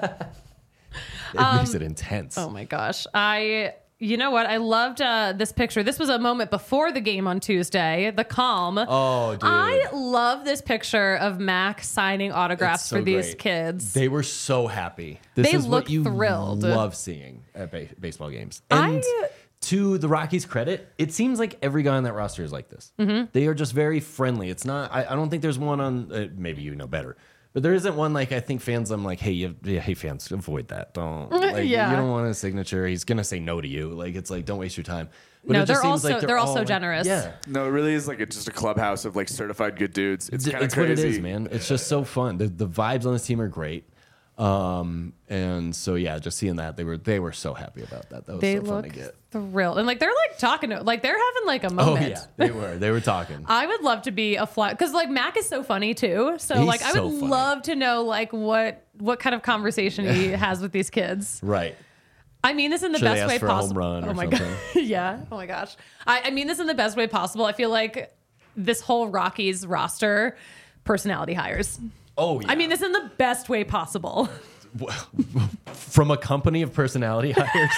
It makes it intense. Oh my gosh. I you know what? I loved uh, this picture. This was a moment before the game on Tuesday, the calm. Oh, dude. I love this picture of Mac signing autographs It's so for these great. kids. They were so happy. This They is look what you thrilled. love seeing at ba- baseball games. I- And to the Rockies' credit, it seems like every guy on that roster is like this. Mm-hmm. They are just very friendly. It's not. I, I don't think there's one on. Uh, maybe you know better. But there isn't one like I think fans. I'm like, hey, you, yeah, hey fans, avoid that. Don't. Like, Yeah. You don't want a signature. He's gonna say no to you. Like it's like don't waste your time. But No, it just they're seems like also- they're all, also like- generous. Yeah. No, it really is like it's just a clubhouse of like certified good dudes. It's Th- kind of It's crazy. what it is, man. It's just so fun. The, the vibes on this team are great. Um, and so yeah, just seeing that they were they were so happy about that. That was They so fun look to get. thrilled. And like they're like talking to like they're having like a Oh moment. yeah, they were. They were talking. I would love to be a fly because like Mac is so funny too. So He's like I so would funny. love to know like what what kind of conversation he has with these kids. Right. I mean this in the Should they best ask way for a home possible. run oh or my something? god. Yeah. Oh my gosh. I, I mean this in the best way possible. I feel like this whole Rockies roster personality hires. Oh yeah. I mean this in the best way possible. From a company of personality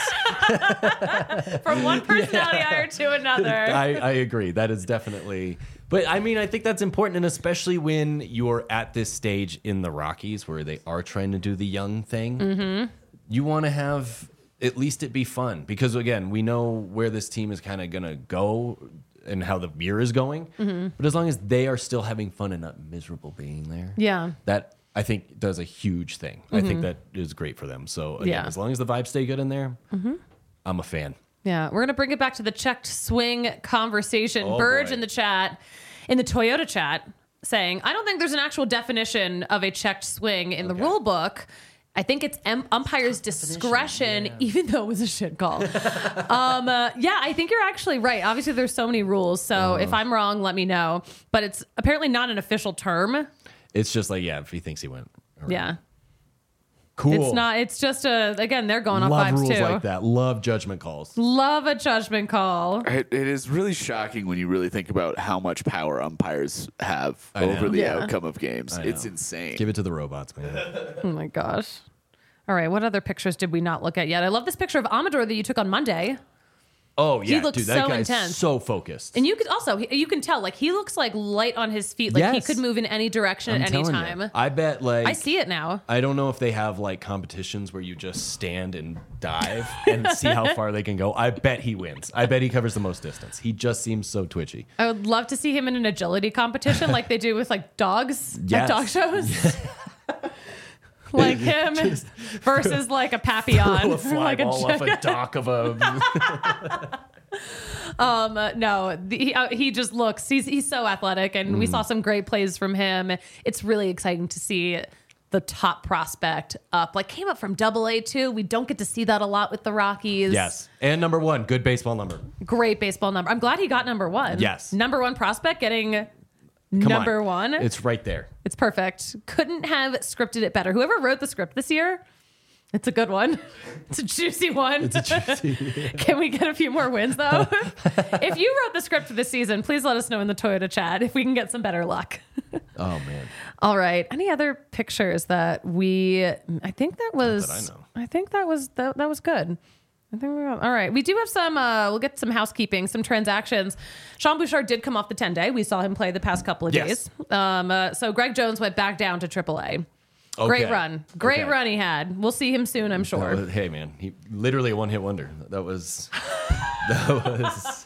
hires. From one personality hire to another. I, I agree. That is definitely. But I mean, I think that's important, and especially when you're at this stage in the Rockies where they are trying to do the young thing. Mm-hmm. You want to have at least it be fun because again, we know where this team is kind of gonna go and how the year is going. Mm-hmm. But as long as they are still having fun and not miserable being there, Yeah. that I think does a huge thing. I think that is great for them. So again, Yeah. as long as the vibes stay good in there, I'm a fan. Yeah, we're gonna bring it back to the checked swing conversation. Oh, Burge boy. in the chat, in the Toyota chat, saying, "I don't think there's an actual definition of a checked swing in the Okay. rule book. I think it's em- umpire's discretion, yeah. even though it was a shit call." um, uh, yeah, I think you're actually right. Obviously, there's so many rules, so Uh-huh. if I'm wrong, let me know. But it's apparently not an official term. It's just like, yeah, if he thinks he went. around. Yeah, Cool. it's not. It's just a again. They're going Love off vibes rules too. like that. Love judgment calls. Love a judgment call. It, it is really shocking when you really think about how much power umpires have I know. over the Yeah. outcome of games. I It's know. insane. Give it to the robots, man. Oh my gosh. All right, what other pictures did we not look at yet? I love this picture of Amador that you took on Monday. Oh yeah, looks dude, that so guy's intense. so focused. And you could also, he- you can tell, like, he looks like light on his feet. Like, he Yes. could move in any direction I'm at any telling time. you. I bet like I see it now. I don't know if they have like competitions where you just stand and dive and see how far they can go. I bet he wins. I bet he covers the most distance. He just seems so twitchy. I would love to see him in an agility competition like they do with, like, dogs Yes. at dog shows. like him versus like a Papillon, Throw a fly like a ball off a dock of a. Um, uh, no, the, he, uh, he just looks, he's, he's so athletic, and we saw some great plays from him. It's really exciting to see the top prospect up, like came up from double A too. We don't get to see that a lot with the Rockies. Yes. And number one, good baseball number. Great baseball number. I'm glad he got number one. Yes. Number one prospect getting Come number on. one. It's right there. It's perfect. Couldn't have scripted it better. Whoever wrote the script this year, it's a good one. It's a juicy one. It's a juicy. Can we get a few more wins, though? If you wrote the script for this season, please let us know in the Toyota chat if we can get some better luck. Oh, man. All right. Any other pictures that we? I think that was. that I know. I think that was that, that was good. I think we're all right. We do have some. Uh, we'll get some housekeeping, some transactions. Sean Bouchard did come off the ten day. We saw him play the past couple of Yes. days. Um, uh, so Greg Jones went back down to triple A. Great Okay. run. Great Okay. run he had. We'll see him soon, I'm sure. That was- hey, man. He literally a one hit wonder. That was. That was.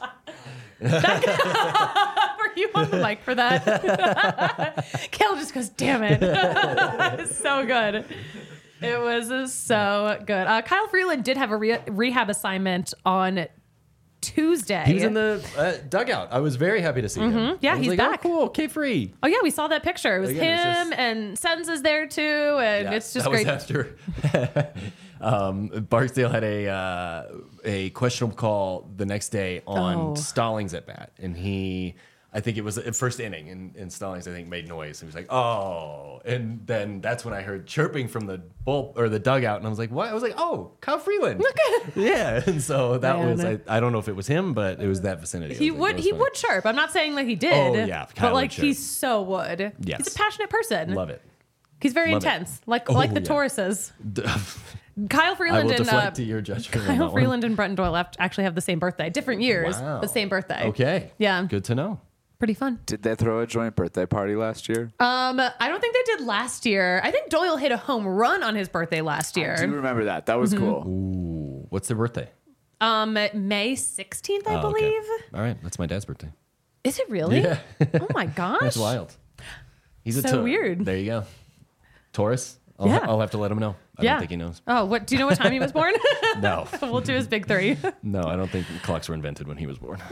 Were you on the mic for that? Kel just goes, damn it. It's so good. It was uh, so good. Uh, Kyle Freeland did have a re- rehab assignment on Tuesday. He was in the uh, dugout. I was very happy to see him. Yeah, I was he's like, back. Oh, cool. K free. Oh, yeah, we saw that picture. It was Again, it's him just- and Sens is there too. And it's just that great. was after um, Barksdale had a uh, a questionable call the next day on Oh. Stallings at bat, and he, I think it was the first inning, and, and Stallings I think made noise. He was like, "Oh," and then that's when I heard chirping from the bull or the dugout, and I was like, "What?" I was like, "Oh, Kyle Freeland." yeah, and so that Man. was I, I don't know if it was him, but it was that vicinity. I He was like, would that was he funny. would chirp. I'm not saying that he did. Oh, yeah, Kyle but like would chirp. he so would. Yes. He's a passionate person. Love it. He's very Love it. intense, like Oh, like the yeah. Tauruses. Kyle I Freeland will and deflect uh, to your judgment. on that Kyle one. Freeland and Brenton Doyle have- actually have the same birthday, different years, Wow. the same birthday. Okay. Yeah. Good to know. Pretty fun. Did they throw a joint birthday party last year? Um, I don't think they did last year. I think Doyle hit a home run on his birthday last I do year. remember that. That was Mm-hmm. cool. Ooh, what's their birthday? Um, May sixteenth, I Oh, okay. believe. All right, that's my dad's birthday. Is it really? Yeah. Oh my gosh. That's wild. He's a So Tau- weird. There you go. Taurus. I'll, Yeah. I'll have to let him know. I Yeah. don't think he knows. Oh, what? Do you know what time he was born? No, We'll do his big three. no, I don't think clocks were invented when he was born.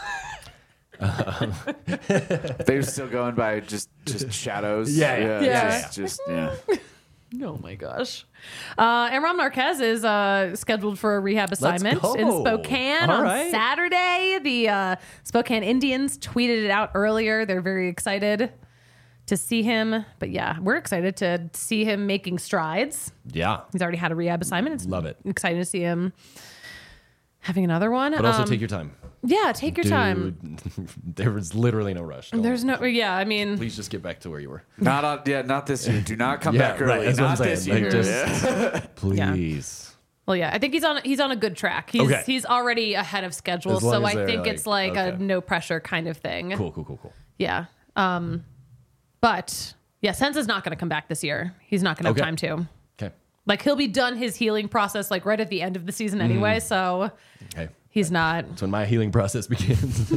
They're still going by just just shadows. Yeah, yeah. Yeah. Just, just yeah. Oh my gosh. Uh, Aaron Marquez is uh, scheduled for a rehab assignment go. in Spokane All on right. Saturday. The uh, Spokane Indians tweeted it out earlier. They're very excited to see him. But yeah, we're excited to see him making strides. Yeah, He's already had a rehab assignment. It's Love it. exciting to see him having another one. but also Um, take your time. yeah, take your time. Dude, there was literally no rush. Don't- There's no, yeah, I mean, Please just get back to where you were. Not on, yeah, not this year. Do not come Yeah, back right, early. that's what I'm Not this saying. year. Like, just- Please. well, yeah, I think he's on he's on a good track. He's Okay. he's already ahead of schedule, As long so as I they're think like- it's like a okay. no pressure kind of thing. Cool, cool, cool, cool. Yeah. Um, but yeah, Sense is not going to come back this year. He's not going to have Okay. time to. Okay. Like he'll be done his healing process like right at the end of the season Mm-hmm. anyway, so Okay. he's not. That's when my healing process begins.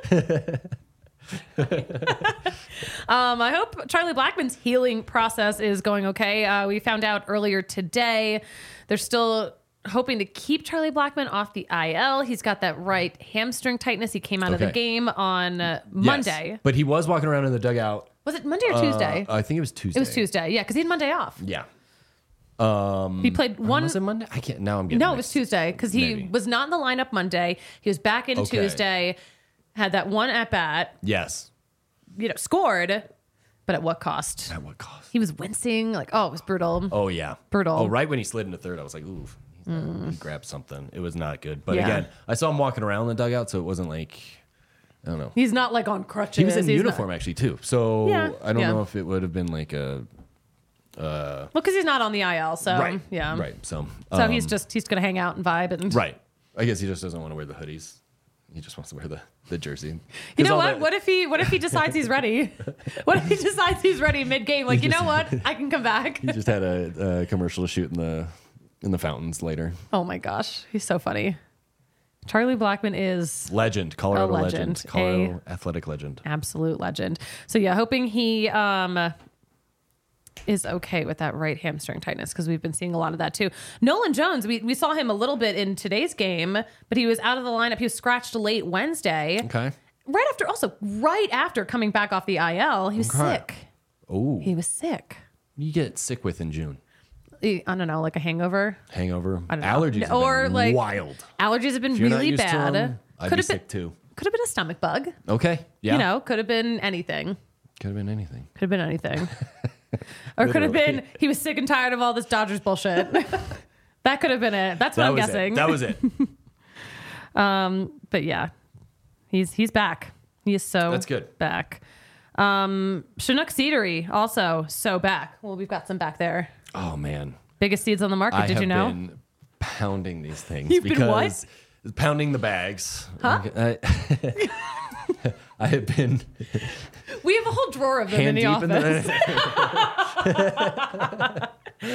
Um, I hope Charlie Blackmon's healing process is going okay. Uh, we found out earlier today they're still hoping to keep Charlie Blackmon off the I L. He's got that right hamstring tightness. He came out of the Okay. game on uh, Yes. Monday. But he was walking around in the dugout. Was it Monday or uh, Tuesday? I think it was Tuesday. It was Tuesday. Yeah, because he had Monday off. Yeah. He played one. Was it Monday? I can't. Now I'm getting. No, it mixed. was Tuesday because he Maybe. was not in the lineup Monday. He was back in Okay. Tuesday, had that one at bat, Yes. you know, scored, but at what cost? At what cost? He was wincing. Like, oh, it was brutal. Oh yeah. Brutal. Oh, right when he slid into third, I was like, ooh, he's not- he grabbed something. It was not good. But Yeah. again, I saw him walking around the dugout, so it wasn't like I don't know. He's not like on crutches. He was in He's uniform not- actually too. So Yeah, I don't yeah. know if it would have been like a Well, because he's not on the I L, so right. yeah. Right. So So um, he's just he's gonna hang out and vibe and right. I guess he just doesn't want to wear the hoodies. He just wants to wear the, the jersey. You 'Cause know all what? the- What if he what if he decides he's ready? What if he decides he's ready mid game? Like, you know what? I can come back. He just had a, a commercial to shoot in the in the fountains later. Oh my gosh, he's so funny. Charlie Blackmon is Legend, Colorado A legend, legend. Colorado athletic legend. absolute legend. So yeah, hoping he um is okay with that right hamstring tightness, because we've been seeing a lot of that too. Nolan Jones, we, we saw him a little bit in today's game, but he was out of the lineup. He was scratched late Wednesday. Okay. Right after, also right after coming back off the I L, he was Okay. sick. Oh, He was sick. you get sick with in June. I don't know, like a hangover. Hangover, I don't know. allergies, have Or been like wild. Allergies have been If you're not really used to bad. them, I'd Could be have been sick too. could have been a stomach bug. Okay, yeah, You know, could have been anything. could have been anything. Could have been anything. Or could have Literally. been he was sick and tired of all this Dodgers bullshit. That could have been it. That's what That I'm was guessing. it. That was it. But yeah, he's he's back. He is so That's good. back. Um, Chinook Seedery also so back. Well, we've got some back there. Oh man, Biggest seeds on the market. I Did have you know? been pounding these things You've been what? because pounding the bags. Huh? I, I have been We have a whole drawer of them in hand the deep office. in the.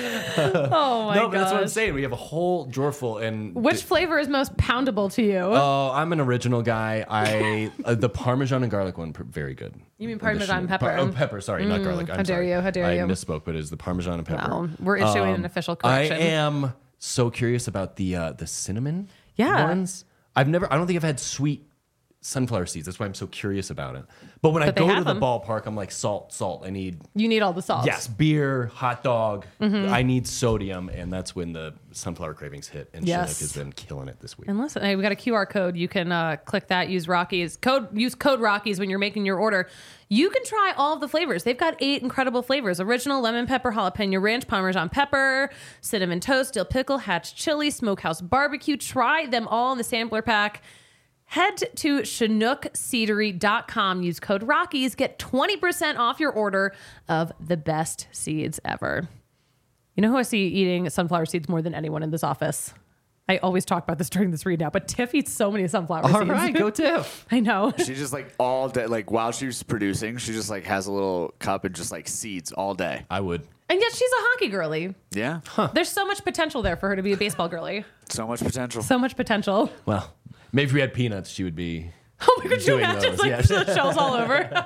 Oh my no, but that's what I'm gosh. saying. We have a whole drawer full, and Which flavor is most poundable to you? Oh, I'm an original guy. I uh, the Parmesan and garlic one, pr- very good. You mean The Parmesan Chinook- pepper? oh, pepper. Sorry, not garlic. I'm how dare sorry. you, how dare I you. misspoke, but it's the Parmesan and pepper. Wow, we're issuing an official correction. I am so curious about the uh, the cinnamon Yeah. ones. I've never. I don't think I've had sweet sunflower seeds. That's why I'm so curious about it. But when But I they go to have the them. ballpark, I'm like salt, salt. I need You need all the sauce. yes, beer, hot dog. Mm-hmm. I need sodium, and that's when the sunflower cravings hit. And Yes. Chinook has been killing it this week. And listen, hey, we got a Q R code. You can uh, click that. Use Rockies code. Use code Rockies when you're making your order. You can try all of the flavors. They've got eight incredible flavors: original, lemon pepper, jalapeno ranch, Parmesan pepper, cinnamon toast, dill pickle, hatch chili, smokehouse barbecue. Try them all in the sampler pack. Head to chinook seedery dot com. Use code Rockies. Get twenty percent off your order of the best seeds ever. You know who I see eating sunflower seeds more than anyone in this office? I always talk about this during this read now, but Tiff eats so many sunflower All seeds. right, go Tiff. I know. She just like all day, like while she's producing, she just like has a little cup and just like seeds all day. I would. And yet she's a hockey girly. Yeah. There's so much potential there for her to be a baseball girly. So much potential. So much potential. Well, maybe if we had peanuts, she would be. Oh my god, you Doing imagine those, like yeah. the shells all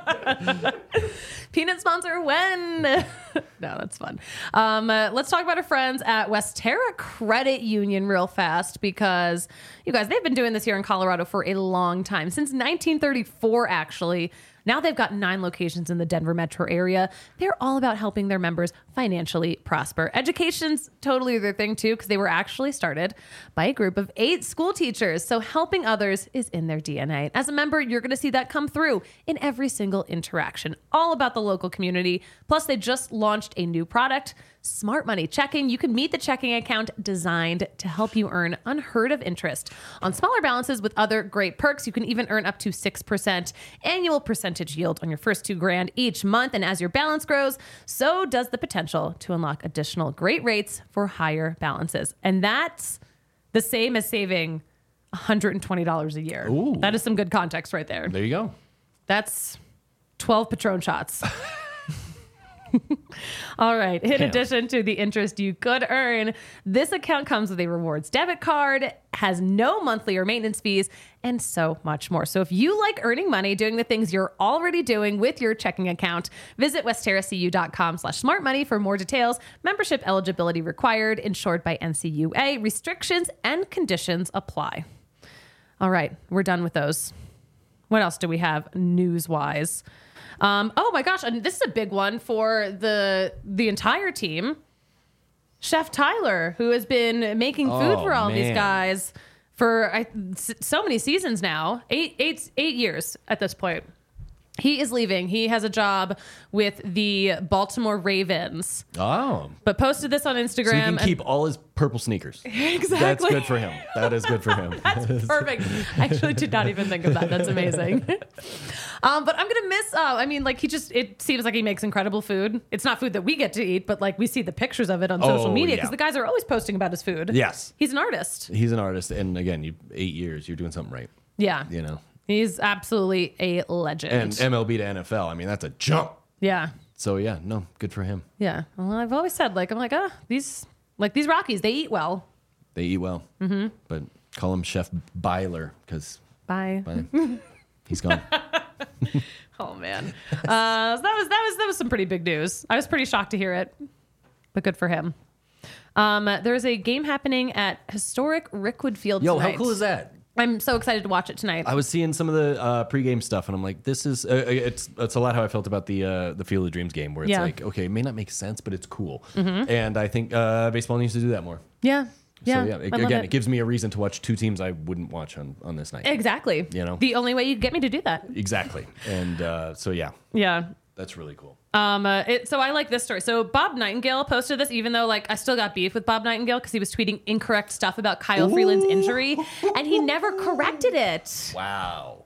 over. Peanut sponsor when? no, that's fun. Um, uh, let's talk about our friends at Westera Credit Union real fast, because you guys, they've been doing this here in Colorado for a long time, since nineteen thirty-four actually. Now they've got nine locations in the Denver metro area. They're all about helping their members financially prosper. Education's totally their thing too, because they were actually started by a group of eight school teachers. So helping others is in their D N A. As a member, you're going to see that come through in every single interaction. All about the local community. Plus, they just launched a new product, Smart Money Checking. You can meet the checking account designed to help you earn unheard of interest on smaller balances with other great perks. You can even earn up to six percent annual percentage yield on your first two grand each month. And as your balance grows, so does the potential to unlock additional great rates for higher balances. And that's the same as saving one hundred twenty dollars a year. Ooh. That is some good context right there. There you go. That's twelve Patron shots. All right. In Damn. addition to the interest you could earn, this account comes with a rewards debit card, has no monthly or maintenance fees, and so much more. So if you like earning money doing the things you're already doing with your checking account, visit westeracu.com slash smart money for more details. Membership eligibility required, insured by N C U A. Restrictions and conditions apply. All right. We're done with those. What else do we have news-wise? Um, oh my gosh, and this is a big one for the the entire team. Chef Tyler, who has been making food Oh, for all these man. guys for I, s- so many seasons now, eight, eight, eight years at this point. He is leaving. He has a job with the Baltimore Ravens, Oh. but posted this on Instagram. So he can and- keep all his purple sneakers. exactly. That's good for him. That is good for him. That's perfect. I actually did not even think of that. That's amazing. um, but I'm gonna miss. Uh, I mean, like he just. It seems like he makes incredible food. It's not food that we get to eat, but like we see the pictures of it on social Oh, media because yeah. the guys are always posting about his food. Yes. he's an artist. He's an artist, and again, you eight years, you're doing something right. Yeah, You know, he's absolutely a legend. and M L B to N F L. I mean, that's a jump. yeah, So yeah, no, good for him. yeah. Well, I've always said like I'm like ah these like these Rockies they eat well. They eat well, mm-hmm. but call him Chef Byler because Bye. he's gone. Oh man. man. Uh, so that was that was that was some pretty big news. I was pretty shocked to hear it, but good for him. Um, there's a game happening at historic Rickwood Field Yo, tonight. how cool is that? I'm so excited to watch it tonight. I was seeing some of the uh, pregame stuff, and I'm like, "This is uh, it's it's a lot how I felt about the uh, the Field of Dreams game, where it's Yeah. like, okay, it may not make sense, but it's cool." Mm-hmm. And I think uh, baseball needs to do that more. yeah, yeah. So yeah, it, I love again, it. it gives me a reason to watch two teams I wouldn't watch on, on this night. Exactly. You know? the only way you get me to do that. Exactly. And uh, so yeah, Yeah. that's really cool. Um, uh, it, so I like this story. So Bob Nightingale posted this, even though like I still got beef with Bob Nightingale because he was tweeting incorrect stuff about Kyle Freeland's injury, and he never corrected it. Wow.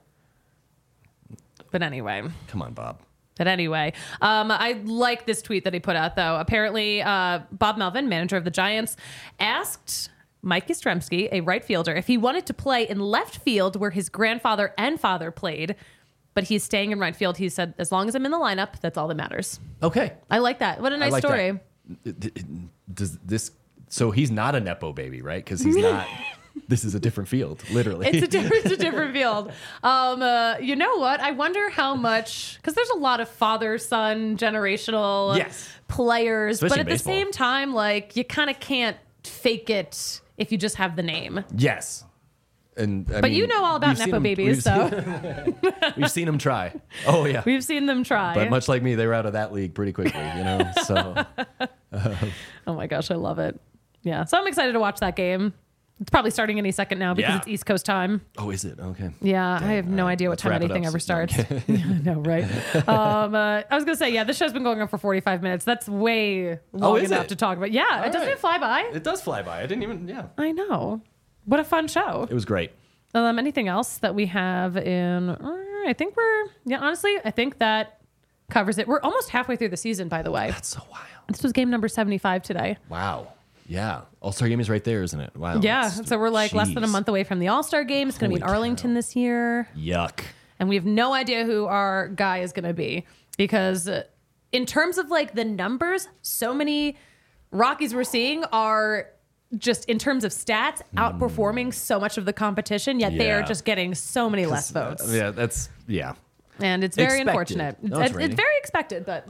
But anyway, Come on, Bob. but anyway, um, I like this tweet that he put out though. Apparently, uh, Bob Melvin, manager of the Giants, asked Mike Yastrzemski, a right fielder, if he wanted to play in left field where his grandfather and father played. But he's staying in right field. He said, as long as I'm in the lineup, that's all that matters. Okay. I like that. What a I nice like story. that. Does this? So he's not a nepo baby, right? Because he's not. This is a different field, literally. It's a different, it's a different field. Um, uh, you know what? I wonder how much, because there's a lot of father-son generational Yes. players, Especially but in at the baseball. same time, like you kind of can't fake it if you just have the name. Yes. And I But mean, you know all about we've seen nepo him- babies, we've so seen- we've seen him try. Oh yeah. we've seen them try. But much like me, they were out of that league pretty quickly, you know. So Oh my gosh, I love it. Yeah, so I'm excited to watch that game. It's probably starting any second now because Yeah. it's East Coast time. oh, is it okay? Yeah, I have no all right. idea what Let's time wrap it anything up. ever No, I'm starts. Yeah, I know, right? um, uh, I was gonna say, yeah, this show's been going on for forty-five minutes. That's way long Oh, is enough it? to talk about. Yeah, All it doesn't right. it fly by? It does fly by. I didn't even. Yeah. I know. What a fun show. It was great. Um, anything else that we have in? uh, I think we're yeah. Honestly, I think that covers it. We're almost halfway through the season, by the way. That's so wild. This was game number seventy-five today. Wow. Yeah. All Star Game is right there, isn't it? Wow. Yeah, That's- so we're like less than a jeez. month away from the All Star game. It's going to be in Holy Arlington cow. this year. Yuck. And we have no idea who our guy is going to be because uh, in terms of like the numbers, so many Rockies we're seeing are just in terms of stats outperforming so much of the competition, yet they are Yeah. just getting so many less votes. Yeah. That's yeah. And it's very Expected. unfortunate. No, it's, it's it's raining. very expected, but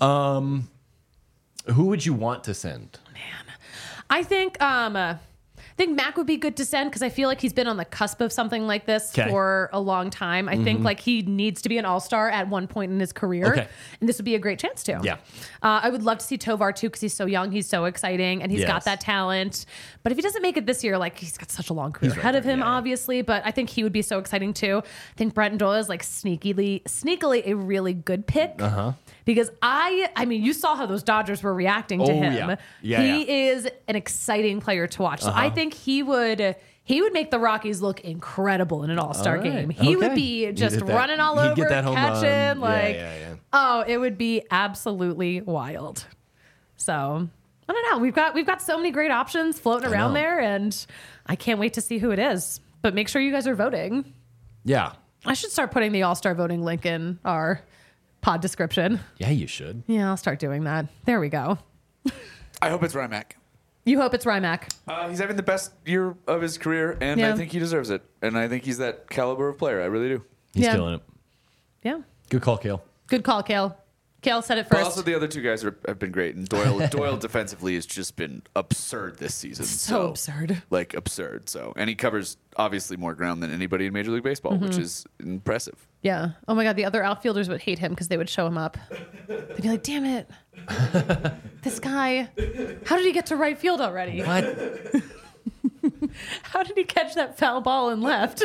Who would you want to send? I think um, uh, I think Mac would be good to send because I feel like he's been on the cusp of something like this 'Kay. for a long time. I think like he needs to be an all-star at one point in his career, Okay. and this would be a great chance to. Yeah. uh, I would love to see Tovar too because he's so young, he's so exciting, and he's got Yes. that talent. But if he doesn't make it this year, like he's got such a long career He's right ahead of there, him, yeah, yeah. obviously. But I think he would be so exciting too. I think Brenton Doyle is like sneakily, sneakily a really good pick. Uh huh. Because I, I mean, you saw how those Dodgers were reacting to Oh, him. yeah. Yeah, he yeah. is an exciting player to watch. So Uh-huh. I think he would he would make the Rockies look incredible in an All-Star All right. game. He would Okay. be He'd just hit that- running all he'd over, get that home run. catching, Yeah, like yeah, yeah. oh, it would be absolutely wild. So I don't know. We've got we've got so many great options floating I around know. there, and I can't wait to see who it is. But make sure you guys are voting. Yeah. I should start putting the All-Star voting link in our pod description. Yeah, you should. Yeah, I'll start doing that. There we go. I hope it's Rymac. You hope it's Rymac. Uh, he's having the best year of his career, and Yeah. I think he deserves it. And I think he's that caliber of player. I really do. He's Yeah. killing it. Yeah. Good call, Kale. Good call, Kale. Kale said it But first. also, the other two guys are, have been great, and Doyle Doyle defensively has just been absurd this season. so absurd. like absurd. So, and he covers obviously more ground than anybody in Major League Baseball, which Mm-hmm. is impressive. Yeah. Oh my God. The other outfielders would hate him because they would show him up. They'd be like, damn it. This guy, how did he get to right field already? What? How did he catch that foul ball and left?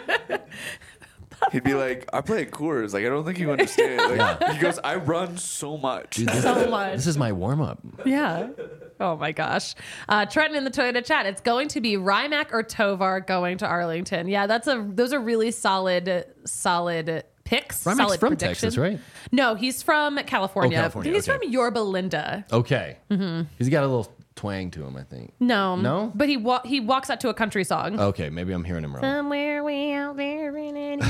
He'd be like, "I play at Coors. Like, I don't think you understand." Like, he goes, "I run so much." Dude, this, So much. this is my warm up. Yeah. Oh my gosh. Uh, Trenton in the Toyota chat. It's going to be Rymac or Tovar going to Arlington. Yeah, that's a. Those are really solid, solid picks. Rymac's solid from predictions. Texas, right? No, he's from California. Oh, California, He's okay. from Yorba Linda. Okay. Mm-hmm. He's got a little twang to him, I think. No, No? but he wa- he walks out to a country song. Okay, maybe I'm hearing him wrong. Somewhere way out there in it,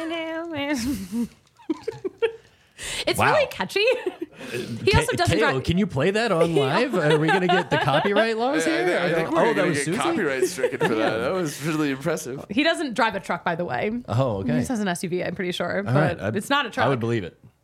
it's Wow. really catchy. He also Ka- doesn't Kale, drive. can you play that on live? Are we going to get the copyright laws I, here? think- I think oh, we're that gonna was get Susie? copyright stricken for that. That was really impressive. He doesn't drive a truck, by the way. Oh, He okay. just has an S U V, I'm pretty sure, All but right. I- it's not a truck. I would believe it.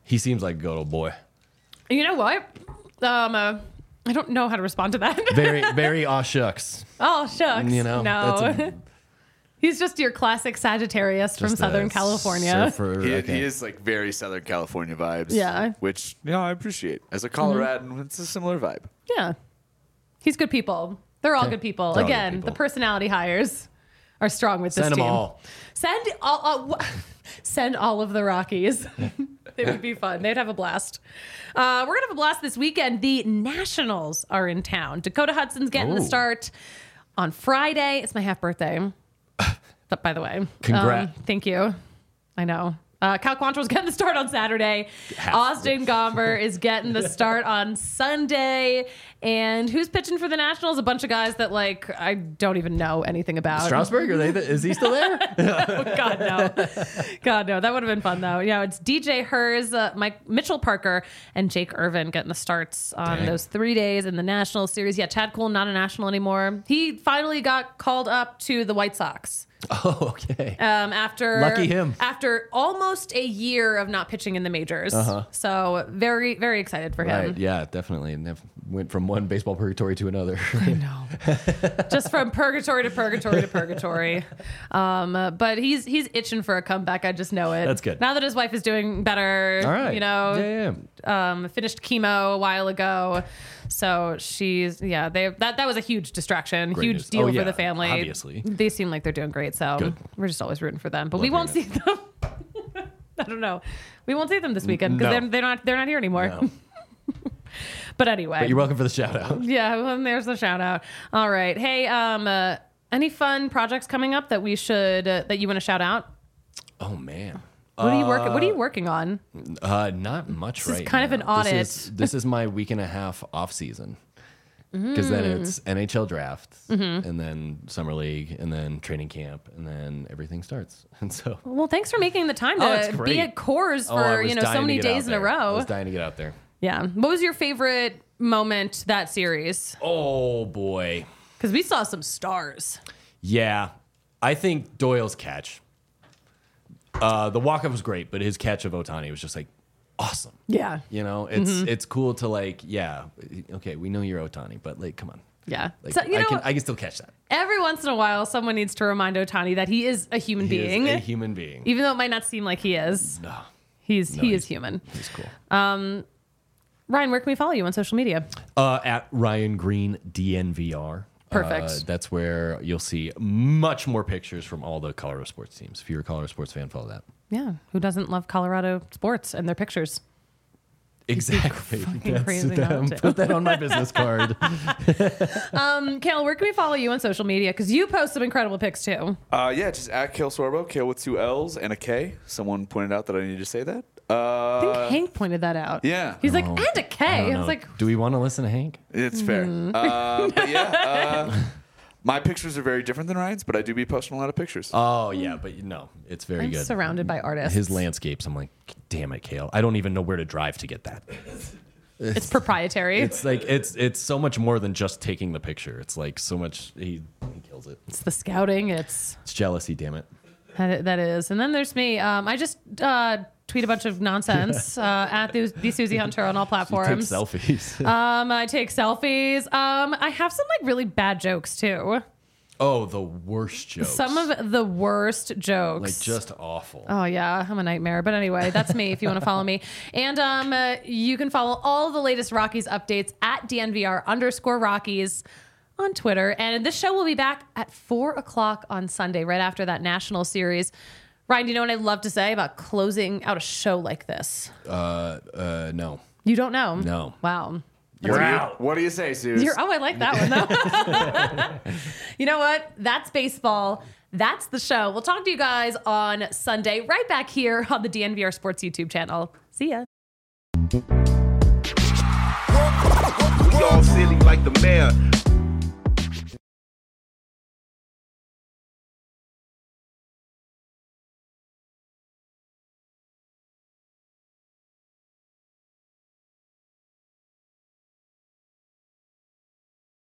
He seems like a good old boy. You know what? Um, uh, I don't know how to respond to that. Very, very aw shucks. Oh, shucks. You know, no. that's a- He's just your classic Sagittarius from Just Southern a California. surfer, He, okay. he is like very Southern California vibes. Yeah. Which, you know, I appreciate. As a Coloradan, it's a similar vibe. Yeah. He's good people. They're all Okay. good people. They're all good Again, people. the personality hires are strong with this Send them team. all. Send all. Uh, send all of the Rockies. It would be fun. They'd have a blast. Uh, we're gonna have a blast this weekend. The Nationals are in town. Dakota Hudson's getting the Ooh. start on Friday. It's my half birthday. But by the way, Congrats. Um, thank you. I know. Uh, Cal Quantrill's getting the start on Saturday. Half. Austin Gomber is getting the start on Sunday. And who's pitching for the Nationals? A bunch of guys that, like, I don't even know anything about. Strasburg, are they? The, is he still there? Oh, God, no. God, no. That would have been fun, though. Yeah, it's D J Hers, uh, Mike Mitchell Parker, and Jake Irvin getting the starts on Dang. those three days in the National Series. Yeah, Chad Kuhl, not a National anymore. He finally got called up to the White Sox. Oh, okay. Um, after Lucky him. After almost a year of not pitching in the majors, Uh-huh. so very very excited for him. Right. Yeah, definitely. And they've went from one baseball purgatory to another. I know, just from purgatory to purgatory to purgatory. Um, uh, but he's he's itching for a comeback. I just know it. That's good. Now that his wife is doing better, All right. you know, Yeah, yeah. um, finished chemo a while ago. So she's yeah, they that that was a huge distraction, Great huge news. deal Oh, for yeah, the family. obviously. They seem like they're doing great. So Good. we're just always rooting for them. But Love we won't see hearing them. I don't know. We won't see them this weekend because No. they're, they're not they're not here anymore. No. But anyway, But you're welcome for the shout out. yeah, well, there's the shout out. All right, hey, um, uh, any fun projects coming up that we should uh, that you want to shout out? Oh, man. What are you working? What are you working on? Uh, not much This is right kind of now. an This audit. is, this is my week and a half off season. Because then Mm. it's N H L draft, Mm-hmm. and then summer league, and then training camp, and then everything starts. And so, Well, thanks for making the time Oh, it's to great. be at Coors Oh, I for was you know so dying to many get out days in a there. I row. was dying to get out there. Yeah. What was your favorite moment that series? Oh boy, Because we saw some stars. yeah. I think Doyle's catch. Uh, the walk-up was great, but his catch of Ohtani was just like awesome. Yeah. You know, it's Mm-hmm. it's cool to like, yeah, okay, we know you're Ohtani, but like, come on. Yeah. Like, So, you I know, can I can still catch that. every once in a while, someone needs to remind Ohtani that he is a human He being, is a human being. even though it might not seem like he is. No, He's no, he he's- is human. He's cool. Ryan, where can we follow you on social media? Uh, at Ryan Green D N V R. Perfect. Uh, that's where you'll see much more pictures from all the Colorado sports teams. If you're a Colorado sports fan, follow that. Yeah. Who doesn't love Colorado sports and their pictures? Exactly. fucking crazy not them. to. Put that on my business card. Um, Kale, where can we follow you on social media? Because you post some incredible pics too. Uh, yeah, just at Kale Sorbo, Kale with two L's and a K. Someone pointed out that I need to say that. Uh, I think Hank pointed that out. yeah. He's like, Oh, and a I K. don't I, know. was like, do we want to listen to Hank? It's fair. Mm-hmm. Uh, but yeah, uh, my pictures are very different than Ryan's, but I do be posting a lot of pictures. Oh yeah, but no, it's very I'm good. surrounded by artists. His landscapes. I'm like, damn it, Kale. I don't even know where to drive to get that. It's proprietary. It's, It's like it's it's so much more than just taking the picture. It's like so much. He, he kills it. the scouting. It's It's jealousy. Damn it. that, that is. And then there's me. Um, I just uh, tweet a bunch of nonsense uh, at the, the Susie Hunter on all Take platforms. selfies. Um, I take selfies. Um, I have some like really bad jokes too. oh, the worst jokes. Some of the worst jokes. like just awful. Oh yeah, I'm a nightmare. But anyway, that's me. If you want to follow me, and um, uh, you can follow all the latest Rockies updates at D N V R underscore Rockies on Twitter. And this show will be back at four o'clock on Sunday, right after that national series. Ryan, do you know what I'd love to say about closing out a show like this? Uh, uh, no. You don't know? No. Wow. You're What do you- out. What do you say, Suze? You're, oh, I like that one though. You know what? That's baseball. That's the show. We'll talk to you guys on Sunday, right back here on the D N V R Sports YouTube channel. See ya. Y'all silly like the mayor.